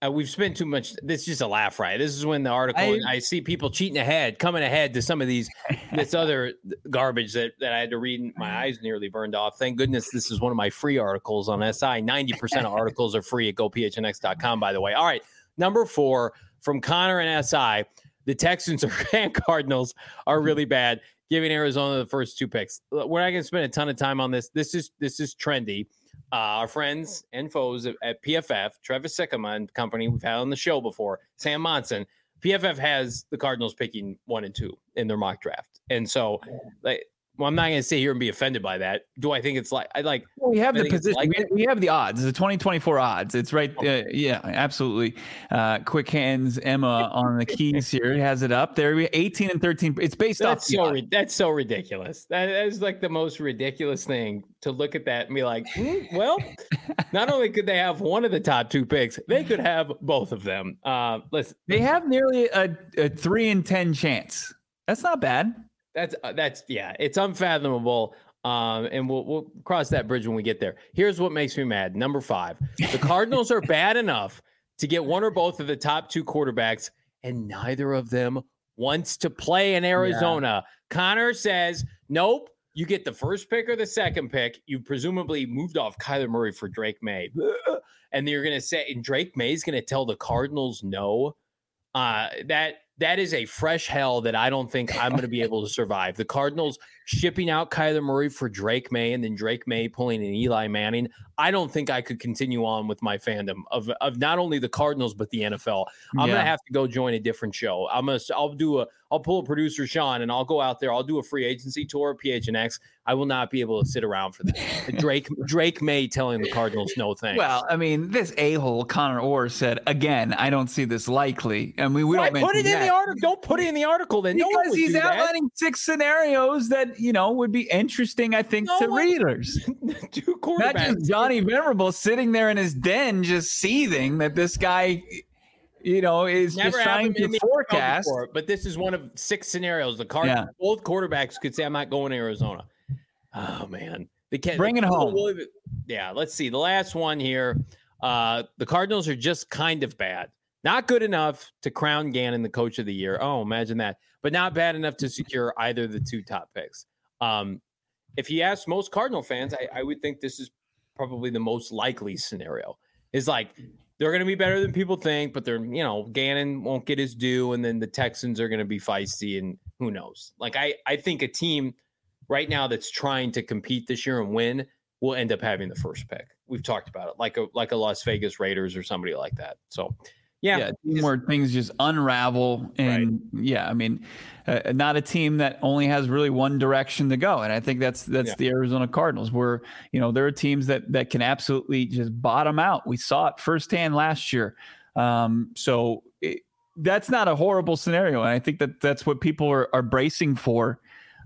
Uh, we've spent too much. This is just a laugh, right? This is when the article I, I see people cheating ahead, coming ahead to some of these this other garbage that, that I had to read. And my eyes nearly burned off. Thank goodness this is one of my free articles on S I. ninety percent of articles are free at go p h n x dot com, by the way. All right, number four from Connor and S I. The Texans and Cardinals are really bad, giving Arizona the first two picks. We're not going to spend a ton of time on this. This is this is trendy. Uh, our friends and foes at P F F, Travis Sikkema and company, we've had on the show before, Sam Monson, P F F has the Cardinals picking one and two in their mock draft. And so, like, well, I'm not going to sit here and be offended by that. Do I think it's like I like? Well, we have I the position. Like we, we have the odds. The twenty twenty-four odds. It's right. Uh, yeah, absolutely. Uh, quick hands, Emma on the keys here has it up there. We eighteen and thirteen. It's based that's off. So ri- that's so ridiculous. That is like the most ridiculous thing to look at that and be like, mm, well, not only could they have one of the top two picks, they could have both of them. Uh, listen, they have nearly a, a three in ten chance. That's not bad. That's uh, that's yeah, it's unfathomable. Um, and we'll we'll cross that bridge when we get there. Here's what makes me mad. Number five, the Cardinals are bad enough to get one or both of the top two quarterbacks, and neither of them wants to play in Arizona. Yeah. Connor says, nope, you get the first pick or the second pick. You presumably moved off Kyler Murray for Drake May. And you're gonna say, and Drake May is gonna tell the Cardinals no. Uh, that that is a fresh hell that I don't think I'm going to be able to survive. The Cardinals shipping out Kyler Murray for Drake May and then Drake May pulling an Eli Manning. I don't think I could continue on with my fandom of, of not only the Cardinals, but the N F L. I'm yeah. going to have to go join a different show. I'm going to, I'll do a, I'll pull a producer, Sean, and I'll go out there. I'll do a free agency tour at P H N X. I will not be able to sit around for that. Drake, Drake May telling the Cardinals no thanks. Well, I mean, this a-hole Connor Orr said, again, I don't see this likely. I mean, we Why don't put it that. in the article. Don't put it in the article then. Because no one would he's do outlining that. six scenarios that, you know, would be interesting, I think, no to one, readers. Two quarterbacks. Not just Johnny Venerable sitting there in his den just seething that this guy, you know, is Never just trying to forecast. Before, but this is one of six scenarios. The Cardinals, yeah. both quarterbacks could say, I'm not going to Arizona. Oh, man. They can't bring it home. Yeah, let's see. The last one here. Uh, the Cardinals are just kind of bad. Not good enough to crown Gannon the coach of the year. Oh, imagine that. But not bad enough to secure either of the two top picks. Um, if you ask most Cardinal fans, I, I would think this is probably the most likely scenario. Is like they're going to be better than people think, but they're, you know, Gannon won't get his due, and then the Texans are going to be feisty, and who knows? Like I, I think a team right now that's trying to compete this year and win will end up having the first pick. We've talked about it, like a like a Las Vegas Raiders or somebody like that. So. Yeah, yeah where things just unravel. And right. yeah, I mean, uh, not a team that only has really one direction to go. And I think that's that's yeah. the Arizona Cardinals, where, you know, there are teams that that can absolutely just bottom out. We saw it firsthand last year. Um, so it, that's not a horrible scenario. And I think that that's what people are, are bracing for.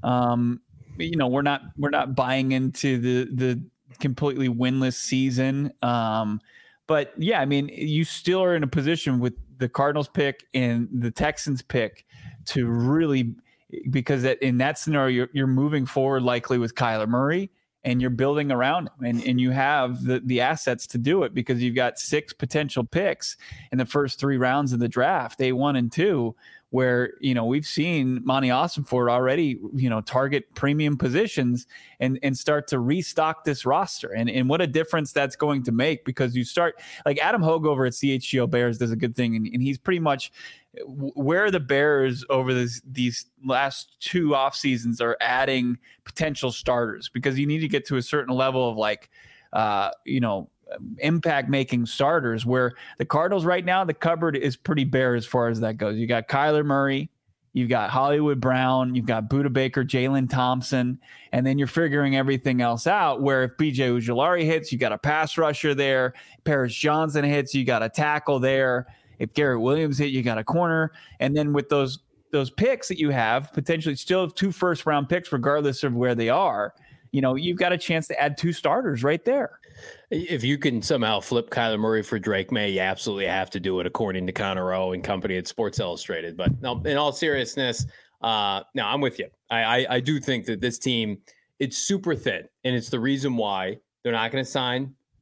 Um, you know, we're not we're not buying into the the completely winless season. Um But yeah, I mean, you still are in a position with the Cardinals pick and the Texans pick to really, because in that scenario, you're, you're moving forward likely with Kyler Murray and you're building around him, and, and you have the, the assets to do it because you've got six potential picks in the first three rounds of the draft, day one and two, where, you know, we've seen Monty Ossenfort already, you know, target premium positions and, and start to restock this roster. And, and what a difference that's going to make, because you start like Adam Hogue over at C H G O Bears does a good thing. And, and he's pretty much where the Bears over this, these last two off seasons are adding potential starters, because you need to get to a certain level of like, uh, you know, impact making starters, where the Cardinals right now, the cupboard is pretty bare as far as that goes. You got Kyler Murray, you've got Hollywood Brown, you've got Budda Baker, Jalen Thompson, and then you're figuring everything else out, where if B J Ojulari hits, you got a pass rusher there. Paris Johnson hits, you got a tackle there. If Garrett Williams hit, you got a corner. And then with those those picks that you have, potentially still have two first round picks regardless of where they are, you know, you've got a chance to add two starters right there. If you can somehow flip Kyler Murray for Drake May, you absolutely have to do it, according to Connor O and company at Sports Illustrated. But no, in all seriousness, uh, no, I'm with you. I, I, I do think that this team, it's super thin, and it's the reason why they're not going to sign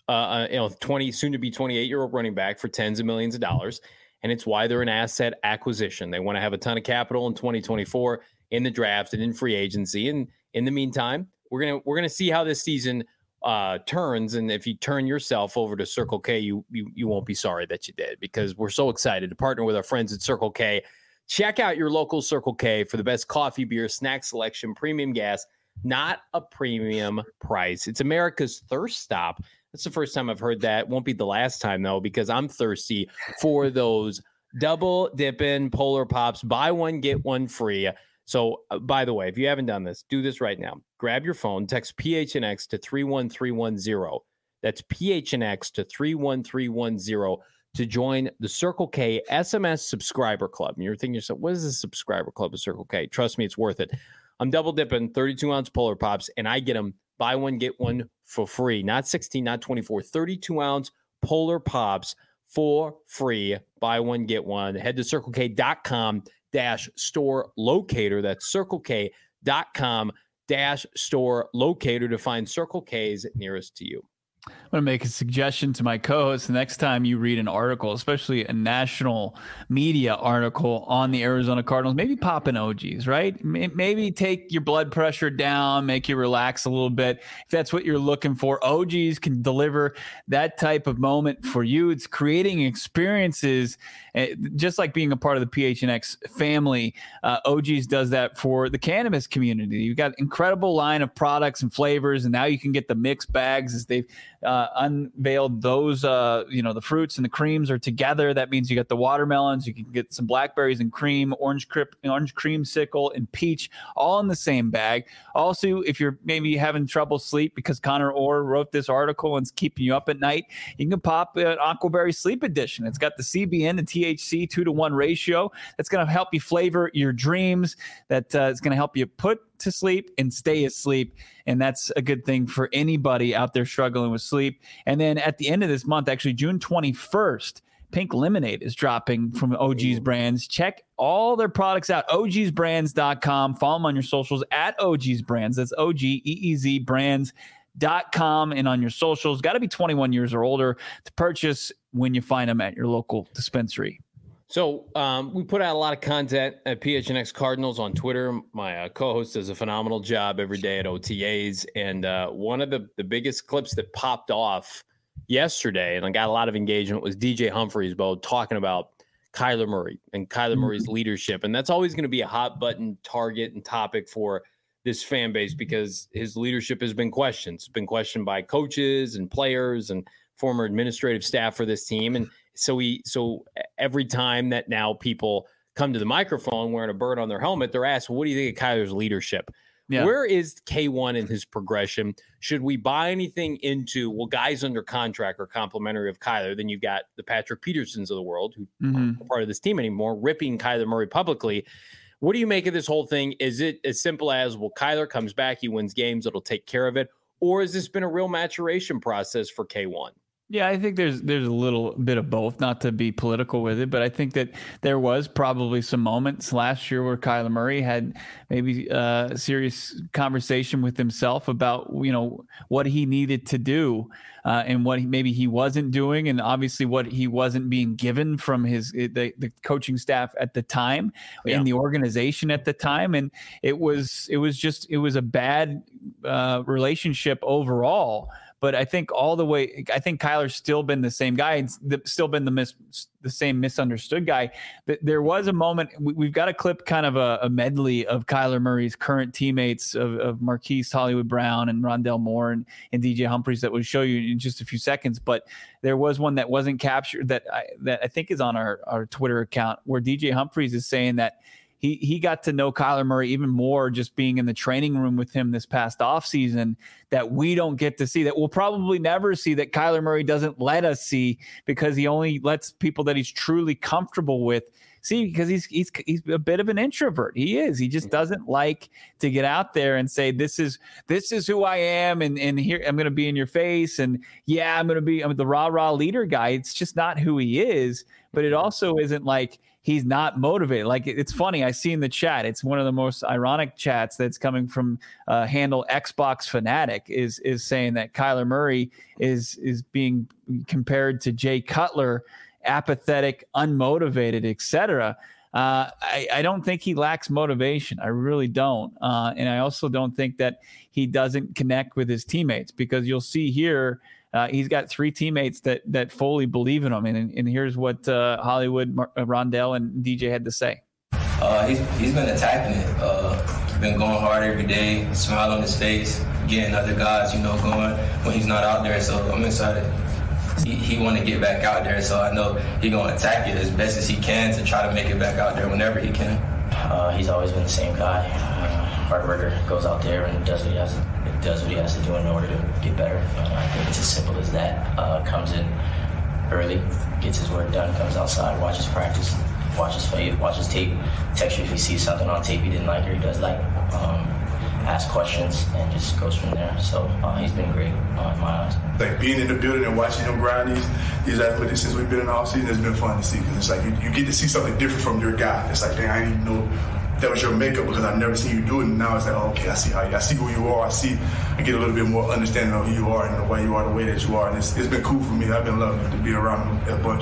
uh, you know, twenty, soon to be twenty-eight year old running back for tens of millions of dollars. And it's why they're an asset acquisition. They want to have a ton of capital in twenty twenty-four in the draft and in free agency. And in the meantime, we're gonna we're gonna see how this season uh, turns. And if you turn yourself over to Circle K, you, you you won't be sorry that you did, because we're so excited to partner with our friends at Circle K. Check out your local Circle K for the best coffee, beer, snack selection, premium gas, not a premium price. It's America's thirst stop. That's the first time I've heard that. Won't be the last time, though, because I'm thirsty for those double dipping Polar Pops. Buy one, get one free. So, uh, by the way, if you haven't done this, do this right now. Grab your phone, text P H N X to three one three one zero. That's P H N X to three one three one zero to join the Circle K S M S Subscriber Club. And you're thinking to yourself, what is the Subscriber Club of Circle K? Trust me, it's worth it. I'm double dipping thirty-two ounce Polar Pops, and I get them buy one, get one for free. Not sixteen, not twenty-four, thirty-two ounce Polar Pops for free. Buy one, get one. Head to circle k dot com dash store locator. That's circle k dot com dash store locator to find Circle K's nearest to you. I'm going to make a suggestion to my co-host. The next time you read an article, especially a national media article on the Arizona Cardinals, maybe pop an O G's, right? Maybe take your blood pressure down, make you relax a little bit. If that's what you're looking for, O G's can deliver that type of moment for you. It's creating experiences, just like being a part of the P H N X family. Uh, O G's does that for the cannabis community. You've got an incredible line of products and flavors, and now you can get the mixed bags as they've uh, unveiled those, uh, you know, the fruits and the creams are together. That means you got the watermelons, you can get some blackberries and cream, orange crip, orange creamsicle and peach, all in the same bag. Also, if you're maybe having trouble sleep because Connor Orr wrote this article and it's keeping you up at night, you can pop an Aquaberry Sleep Edition. It's got the C B N, the T H C two to one ratio. That's going to help you flavor your dreams. That uh, is going to help you put to sleep and stay asleep. And that's a good thing for anybody out there struggling with sleep. And then at the end of this month, actually June twenty-first, Pink Lemonade is dropping from O G's Brands. Check all their products out, O Gs brands dot com. Follow them on your socials at O G's Brands. That's O G E E Z brands dot com. And on your socials, got to be twenty-one years or older to purchase when you find them at your local dispensary. So um, we put out a lot of content at P H N X Cardinals on Twitter. My uh, co-host does a phenomenal job every day at O T As. And uh, one of the, the biggest clips that popped off yesterday, and I got a lot of engagement, was D J Humphries, Bo, talking about Kyler Murray and Kyler mm-hmm. Murray's leadership. And that's always going to be a hot button target and topic for this fan base because his leadership has been questioned. It's been questioned by coaches and players and former administrative staff for this team. And so we, so every time that now people come to the microphone wearing a bird on their helmet, they're asked, well, what do you think of Kyler's leadership? Yeah. Where is K one in his progression? Should we buy anything into, well, guys under contract are complimentary of Kyler? Then you've got the Patrick Petersons of the world who mm-hmm. aren't part of this team anymore, ripping Kyler Murray publicly. What do you make of this whole thing? Is it as simple as, well, Kyler comes back, he wins games, it'll take care of it? Or has this been a real maturation process for K one? Yeah, I think there's there's a little bit of both, not to be political with it, but I think that there was probably some moments last year where Kyler Murray had maybe a serious conversation with himself about, you know, what he needed to do uh, and what he, maybe he wasn't doing, and obviously what he wasn't being given from his the, the coaching staff at the time, yeah. in the organization at the time, and it was it was just it was a bad uh, relationship overall. But I think all the way, I think Kyler's still been the same guy, and still been the mis, the same misunderstood guy. But there was a moment, we've got a clip, kind of a, a medley of Kyler Murray's current teammates of, of Marquise Hollywood Brown and Rondell Moore and, and D J Humphries that we'll show you in just a few seconds. But there was one that wasn't captured that I, that I think is on our, our Twitter account, where D J Humphries is saying that He he got to know Kyler Murray even more just being in the training room with him this past offseason, that we don't get to see, that we'll probably never see, that Kyler Murray doesn't let us see because he only lets people that he's truly comfortable with see, because he's he's he's a bit of an introvert. He is. He just doesn't like to get out there and say, this is this is who I am, and and here I'm going to be in your face, and yeah, I'm going to be I'm the rah rah leader guy. It's just not who he is. But it also isn't like he's not motivated. Like, it's funny. I see in the chat, it's one of the most ironic chats that's coming from uh, handle Xbox Fanatic is is saying that Kyler Murray is is being compared to Jay Cutler, apathetic, unmotivated, et cetera. Uh, I, I don't think he lacks motivation. I really don't. Uh, and I also don't think that he doesn't connect with his teammates, because you'll see here, uh, he's got three teammates that that fully believe in him. And, and here's what uh, Hollywood, Mar- Rondell, and D J had to say. Uh, he's, he's been attacking it. Uh, he's been going hard every day, smile on his face, getting other guys, you know, going when he's not out there. So I'm excited. He, he want to get back out there, so I know he's going to attack it as best as he can to try to make it back out there whenever he can. Uh, he's always been the same guy. Uh, hard worker, goes out there and does what he has to, does what he has to do in order to get better. Uh, I think it's as simple as that. Uh, comes in early, gets his work done, comes outside, watches practice, watches film, watches tape, texts you if he sees something on tape he didn't like or he does like. Um, ask questions and just goes from there. So uh, he's been great uh, in my eyes. Like being in the building and watching him grind these these athletes since we've been in the offseason has been fun to see, because it's like you, you get to see something different from your guy. It's like, dang, I didn't even know that was your makeup because I've never seen you do it. And now it's like, oh, okay, I see how you, I see who you are. I see, I get a little bit more understanding of who you are and the way you are, the way that you are. And it's, it's been cool for me. I've been loving to be around him a bunch.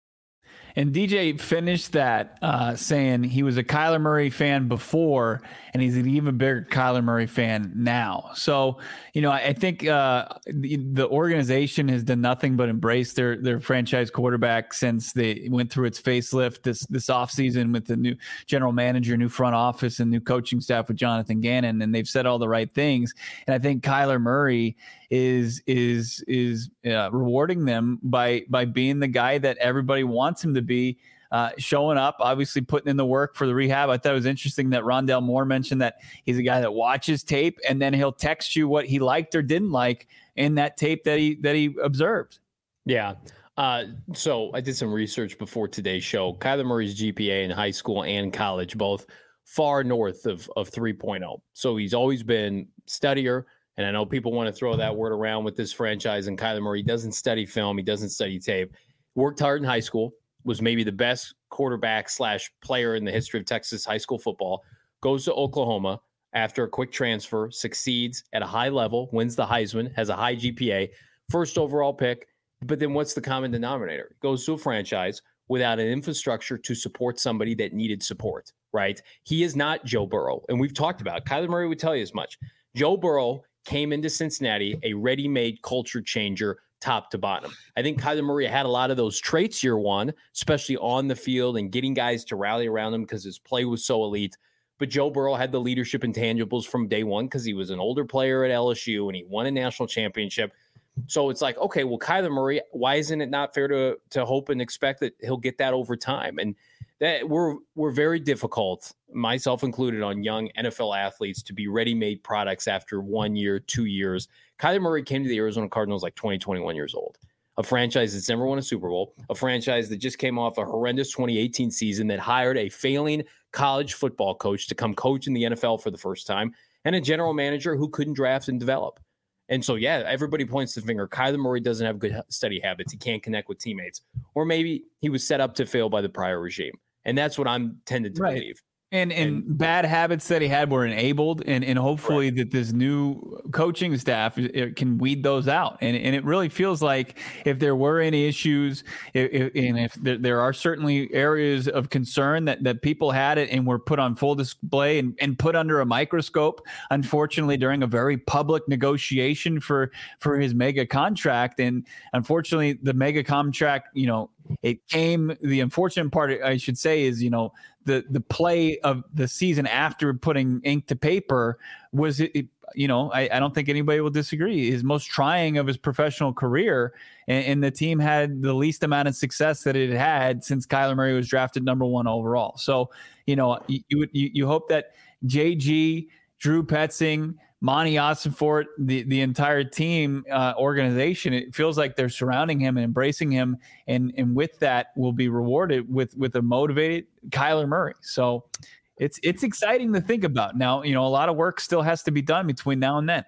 And D J finished that uh, saying he was a Kyler Murray fan before, and he's an even bigger Kyler Murray fan now. So, you know, I, I think uh, the, the organization has done nothing but embrace their their franchise quarterback since they went through its facelift this this offseason with the new general manager, new front office, and new coaching staff with Jonathan Gannon, and they've said all the right things. And I think Kyler Murray is is is uh, rewarding them by by being the guy that everybody wants him to be, uh, showing up, obviously putting in the work for the rehab. I thought it was interesting that Rondell Moore mentioned that he's a guy that watches tape and then he'll text you what he liked or didn't like in that tape that he that he observed. Yeah. Uh, so I did some research before today's show. Kyler Murray's G P A in high school and college, both far north of, of three point oh. So he's always been studier. And I know people want to throw that word around with this franchise, and Kyler Murray doesn't study film. He doesn't study tape. Worked hard in high school, was maybe the best quarterback slash player in the history of Texas high school football, goes to Oklahoma after a quick transfer, succeeds at a high level, wins the Heisman, has a high G P A, first overall pick. But then what's the common denominator? Goes to a franchise without an infrastructure to support somebody that needed support, right? He is not Joe Burrow. And we've talked about it. Kyler Murray would tell you as much. Joe Burrow came into Cincinnati a ready-made culture changer top to bottom. I think Kyler Murray had a lot of those traits year one, especially on the field and getting guys to rally around him because his play was so elite. But Joe Burrow had the leadership intangibles from day one because he was an older player at L S U and he won a national championship. So it's like, okay, well, Kyler Murray, why isn't it not fair to to hope and expect that he'll get that over time? And that we're we're very difficult, myself included, on young N F L athletes to be ready-made products after one year, two years. Kyler Murray came to the Arizona Cardinals like twenty, twenty-one years old. A franchise that's never won a Super Bowl, a franchise that just came off a horrendous twenty eighteen season that hired a failing college football coach to come coach in the N F L for the first time, and a general manager who couldn't draft and develop. And so, yeah, everybody points the finger. Kyler Murray doesn't have good study habits. He can't connect with teammates. Or maybe he was set up to fail by the prior regime. And that's what I'm tended to right. believe. And, and and bad habits that he had were enabled, and, and hopefully right. that this new coaching staff it can weed those out. And and it really feels like if there were any issues, if, and if there, there are certainly areas of concern that, that people had it and were put on full display and, and put under a microscope, unfortunately, during a very public negotiation for, for his mega contract. And unfortunately, the mega contract, you know, it came, the unfortunate part, I should say, is, you know, the, the play of the season after putting ink to paper was, it, you know, I, I don't think anybody will disagree, his most trying of his professional career. And, and the team had the least amount of success that it had since Kyler Murray was drafted number one overall. So, you know, you, you, you hope that J G, Drew Petzing, Monty Ossenfort, the, the entire team uh, organization, it feels like they're surrounding him and embracing him. And, and with that will be rewarded with, with a motivated Kyler Murray. So it's, it's exciting to think about now. You know, a lot of work still has to be done between now and then.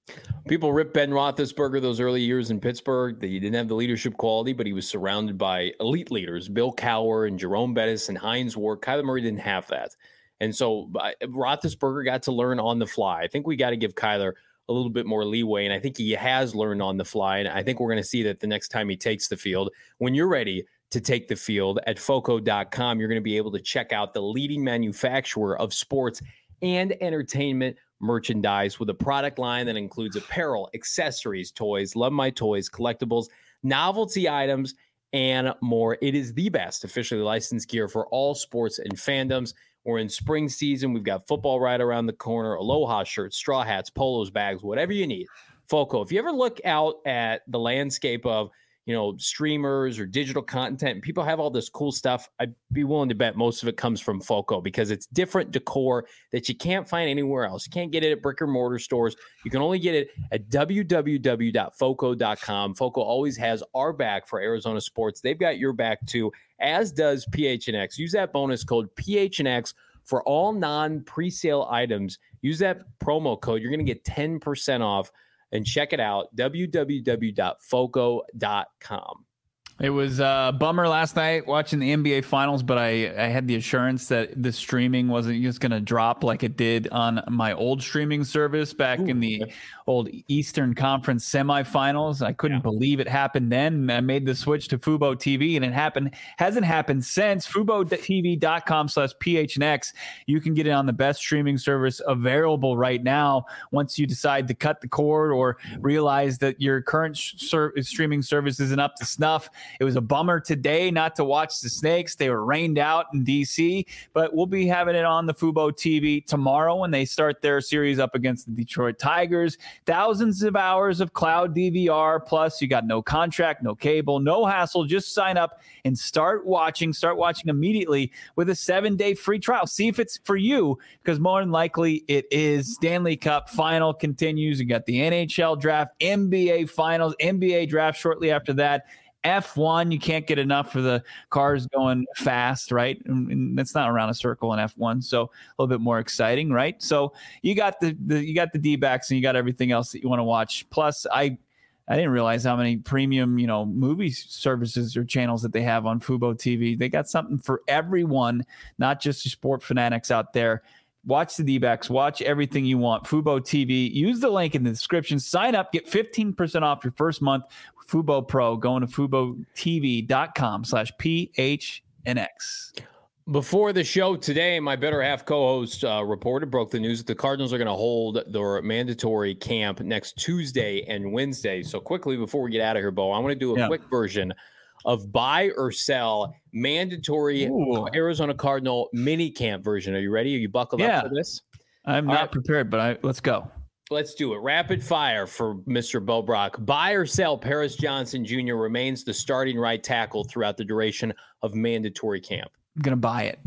People rip Ben Roethlisberger those early years in Pittsburgh. That he didn't have the leadership quality, but he was surrounded by elite leaders, Bill Cowher and Jerome Bettis and Heinz Ward. Kyler Murray didn't have that. And so uh, Roethlisberger got to learn on the fly. I think we got to give Kyler a little bit more leeway, and I think he has learned on the fly, and I think we're going to see that the next time he takes the field. When you're ready to take the field at foco dot com, you're going to be able to check out the leading manufacturer of sports and entertainment merchandise with a product line that includes apparel, accessories, toys, Love My Toys, collectibles, novelty items, and more. It is the best officially licensed gear for all sports and fandoms. We're in spring season. We've got football right around the corner, Aloha shirts, straw hats, polos, bags, whatever you need. Foco. If you ever look out at the landscape of, you know, streamers or digital content, and people have all this cool stuff, I'd be willing to bet most of it comes from Foco because it's different decor that you can't find anywhere else. You can't get it at brick and mortar stores. You can only get it at w w w dot foco dot com. Foco always has our back for Arizona sports. They've got your back too, as does P H N X. Use that bonus code P H N X for all non-presale items. Use that promo code. You're going to get ten percent off. And check it out, w w w dot foco dot com. It was a bummer last night watching the N B A Finals, but I, I had the assurance that the streaming wasn't just going to drop like it did on my old streaming service back Ooh. in the old Eastern Conference semifinals. I couldn't yeah. believe it happened then. I made the switch to Fubo T V, and it happened hasn't happened since. Fubo T V dot com slash P H N X. You can get it on the best streaming service available right now once you decide to cut the cord or realize that your current ser- streaming service isn't up to snuff. It was a bummer today not to watch the Snakes. They were rained out in D C, but we'll be having it on the Fubo T V tomorrow when they start their series up against the Detroit Tigers. Thousands of hours of cloud D V R. Plus, you got no contract, no cable, no hassle. Just sign up and start watching. Start watching immediately with a seven-day free trial. See if it's for you, because more than likely it is. Stanley Cup final continues. You got the N H L draft, N B A finals, N B A draft shortly after that. F one, you can't get enough for the cars going fast, right? And that's not around a circle in F one, so a little bit more exciting, right? So you got the, the you got the D-backs and you got everything else that you want to watch. Plus, I I didn't realize how many premium, you know, movie services or channels that they have on Fubo T V. They got something for everyone, not just the sport fanatics out there. Watch the D-backs. Watch everything you want. Fubo T V. Use the link in the description. Sign up. Get fifteen percent off your first month. Fubo Pro. Going to fubo t v dot com slash P H N X. Before the show today, my better half co-host uh, reported, broke the news that the Cardinals are going to hold their mandatory camp next Tuesday and Wednesday. So quickly, before we get out of here, Bo, I want to do a yeah. quick version of buy or sell mandatory Ooh. Arizona Cardinal mini camp version. Are you ready? Are you buckled yeah. up for this? I'm All not right. prepared, but I, let's go. Let's do it. Rapid fire for Mister Bo Brock. Buy or sell, Paris Johnson Junior remains the starting right tackle throughout the duration of mandatory camp. I'm going to buy it.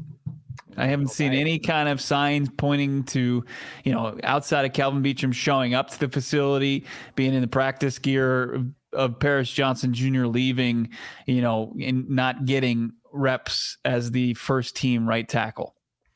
I haven't okay. seen any kind of signs pointing to, you know, outside of Calvin Beachum showing up to the facility, being in the practice gear of, of Paris Johnson Junior leaving, you know, and not getting reps as the first team right tackle.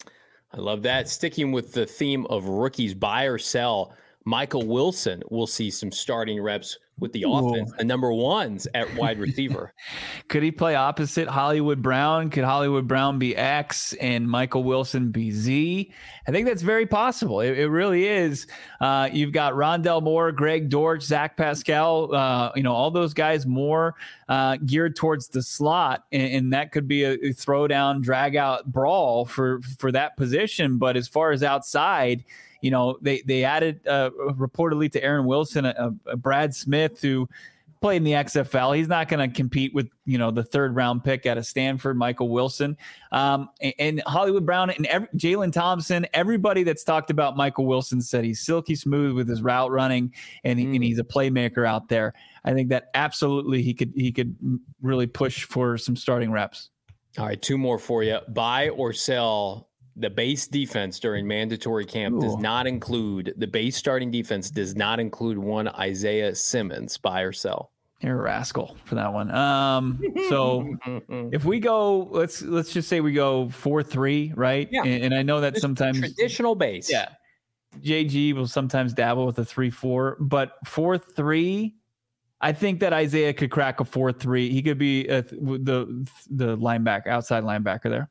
I love that. Sticking with the theme of rookies, buy or sell, Michael Wilson will see some starting reps with the Ooh. offense, the number ones at wide receiver. Could he play opposite Hollywood Brown? Could Hollywood Brown be X and Michael Wilson be Z? I think that's very possible. It, it really is. Uh, you've got Rondell Moore, Greg Dortch, Zach Pascal, uh, you know, all those guys more uh, geared towards the slot, and, and that could be a, a throwdown, drag out brawl for, for that position. But as far as outside, you know, they, they added uh, reportedly to Aaron Wilson, a, a Brad Smith who played in the X F L. He's not going to compete with, you know, the third round pick out of Stanford, Michael Wilson, um, and, and Hollywood Brown and Jalen Thompson. Everybody that's talked about Michael Wilson said he's silky smooth with his route running, and, he, mm. and he's a playmaker out there. I think that absolutely he could he could really push for some starting reps. All right, two more for you. Buy or sell. The base defense during mandatory camp Ooh. does not include the base starting defense does not include one Isaiah Simmons. Buy or sell? You're a rascal for that one. Um, so if we go, let's let's just say we go four three, right? Yeah. And, and I know that sometimes traditional base. Yeah. J G will sometimes dabble with a three four, but four three, I think that Isaiah could crack a four three. He could be a, the the linebacker, outside linebacker there.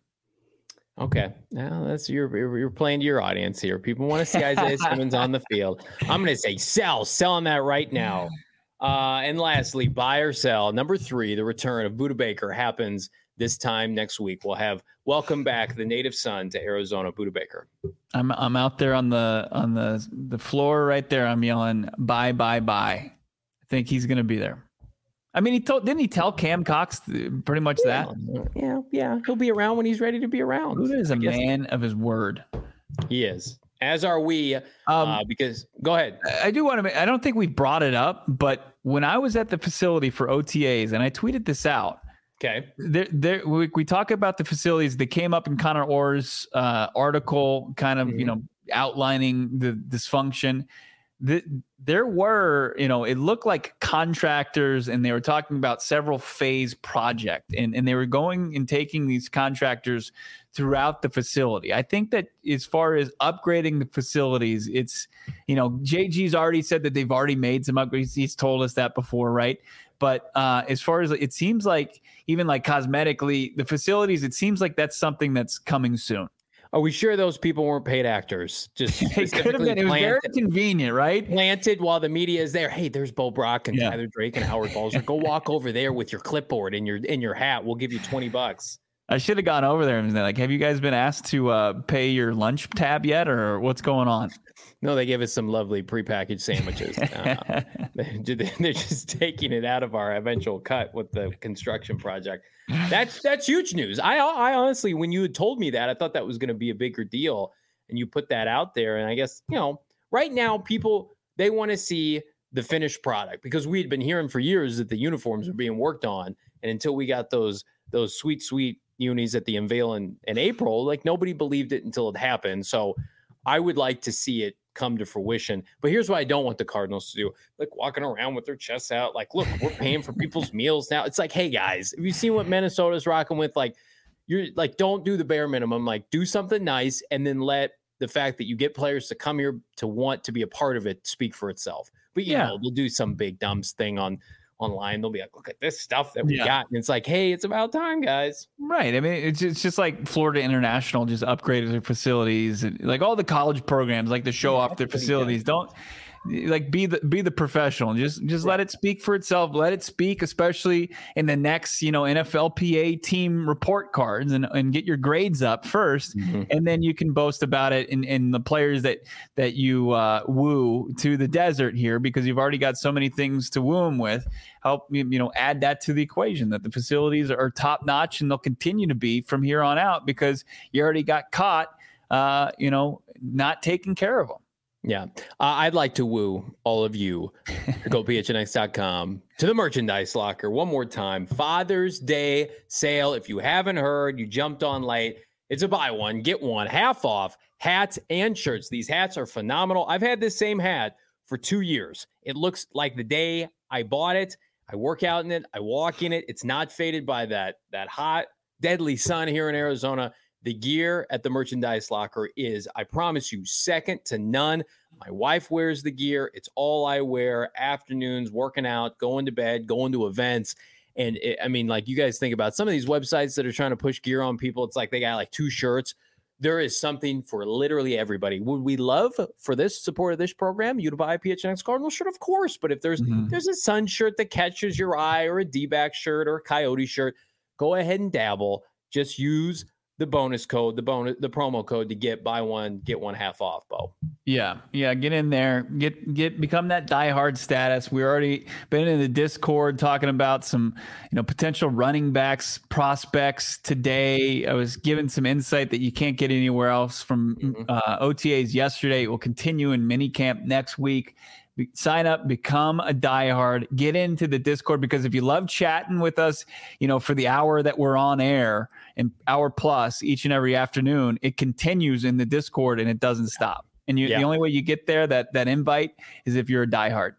Okay, now that's you're you're playing to your audience here. People want to see Isaiah Simmons on the field. I'm going to say sell, selling that right now. Uh, and lastly, buy or sell. Number three, the return of Budda Baker happens this time next week. We'll have welcome back the native son to Arizona, Budda Baker. I'm I'm out there on the on the the floor right there. I'm yelling buy buy buy. I think he's going to be there. I mean, he told didn't he tell Cam Cox pretty much yeah, that? Yeah, yeah, he'll be around when he's ready to be around. Budda is a man of his word. He is. As are we. Um, uh, because go ahead. I do want to. I don't think we brought it up, but when I was at the facility for O T As, and I tweeted this out. Okay. There, there. We, we talk about the facilities. They came up in Connor Orr's uh, article, kind of, mm-hmm. you know, outlining the dysfunction. The, there were, you know, it looked like contractors, and they were talking about several phase project, and, and they were going and taking these contractors throughout the facility. I think that as far as upgrading the facilities, it's, you know, J G's already said that they've already made some upgrades. He's told us that before, right? But uh, as far as it seems like, even like cosmetically, the facilities, it seems like that's something that's coming soon. Are we sure those people weren't paid actors? Just it could have been. It was planted, very convenient, right? Planted while the media is there. Hey, there's Bo Brock and yeah. Tyler Drake and Howard Balzer. Go walk over there with your clipboard and your in your hat. We'll give you twenty bucks. I should have gone over there and been like, have you guys been asked to uh, pay your lunch tab yet, or what's going on? No, they gave us some lovely prepackaged sandwiches. Uh, they're just taking it out of our eventual cut with the construction project. That's that's huge news. I I honestly, when you had told me that, I thought that was going to be a bigger deal, and you put that out there. And I guess, you know, right now people, they want to see the finished product, because we had been hearing for years that the uniforms were being worked on, and until we got those those sweet sweet unis at the unveil in, in April, like nobody believed it until it happened. So I would like to see it come to fruition. But here's what I don't want the Cardinals to do. Like walking around with their chests out. Like, look, we're paying for people's meals now. It's like, hey guys, have you seen what Minnesota's rocking with? Like, you're like, don't do the bare minimum. Like, do something nice, and then let the fact that you get players to come here to want to be a part of it speak for itself. But you yeah. know, they'll do some big dumb thing on online. They'll be like, look at this stuff that we yeah. got. And it's like, hey, it's about time, guys. Right. I mean, it's, it's just like Florida International just upgraded their facilities, and like all the college programs like to show yeah, off their facilities. Don't like be the be the professional. Just just right. let it speak for itself. Let it speak, especially in the next, you know, N F L P A team report cards, and, and get your grades up first, mm-hmm. and then you can boast about it in, in the players that that you uh, woo to the desert here, because you've already got so many things to woo them with. Help you know add that to the equation, that the facilities are top notch, and they'll continue to be from here on out, because you already got caught, uh, you know, not taking care of them. Yeah, uh, I'd like to woo all of you to go P H N X dot com to the merchandise locker one more time. Father's Day sale. If you haven't heard, you jumped on late. It's a buy one, get one, half off hats and shirts. These hats are phenomenal. I've had this same hat for two years. It looks like the day I bought it. I work out in it. I walk in it. It's not faded by that, that hot, deadly sun here in Arizona. The gear at the merchandise locker is, I promise you, second to none. My wife wears the gear. It's all I wear. Afternoons, working out, going to bed, going to events. And it, I mean, like, you guys think about some of these websites that are trying to push gear on people. It's like they got like two shirts. There is something for literally everybody. Would we love for this support of this program, you to buy a P H N X Cardinal shirt? Of course. But if there's mm-hmm. there's a Sun shirt that catches your eye, or a D-back shirt, or a Coyote shirt, go ahead and dabble. Just use the bonus code, the bonus, the promo code to get buy one, get one half off, Bo. Yeah. Yeah. Get in there, get, get, become that diehard status. We already been in the Discord talking about some, you know, potential running backs prospects today. I was given some insight that you can't get anywhere else from mm-hmm. uh, O T As yesterday. It will continue in minicamp next week. Sign up, become a diehard, get into the Discord, because if you love chatting with us, you know, for the hour that we're on air, and hour plus each and every afternoon, it continues in the Discord and it doesn't stop. And you, yeah. the only way you get there, that that invite, is if you're a diehard.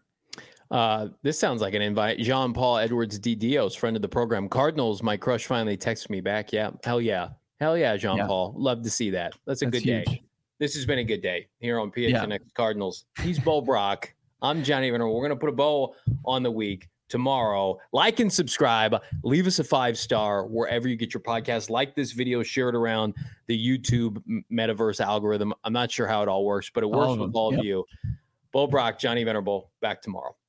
Uh, this sounds like an invite. Jean-Paul Edwards D. Dios, friend of the program. Cardinals, my crush finally texted me back. Yeah, hell yeah. Hell yeah, Jean-Paul. Yeah. Love to see that. That's a That's good huge. day. this has been a good day here on P H N X yeah. Cardinals. He's Bo Brock. I'm Johnny Venerable. We're going to put a bow on the week tomorrow. Like and subscribe. Leave us a five-star wherever you get your podcast. Like this video. Share it around the YouTube metaverse algorithm. I'm not sure how it all works, but it works all with all yep. of you. Bo Brock, Johnny Venerable. Back tomorrow.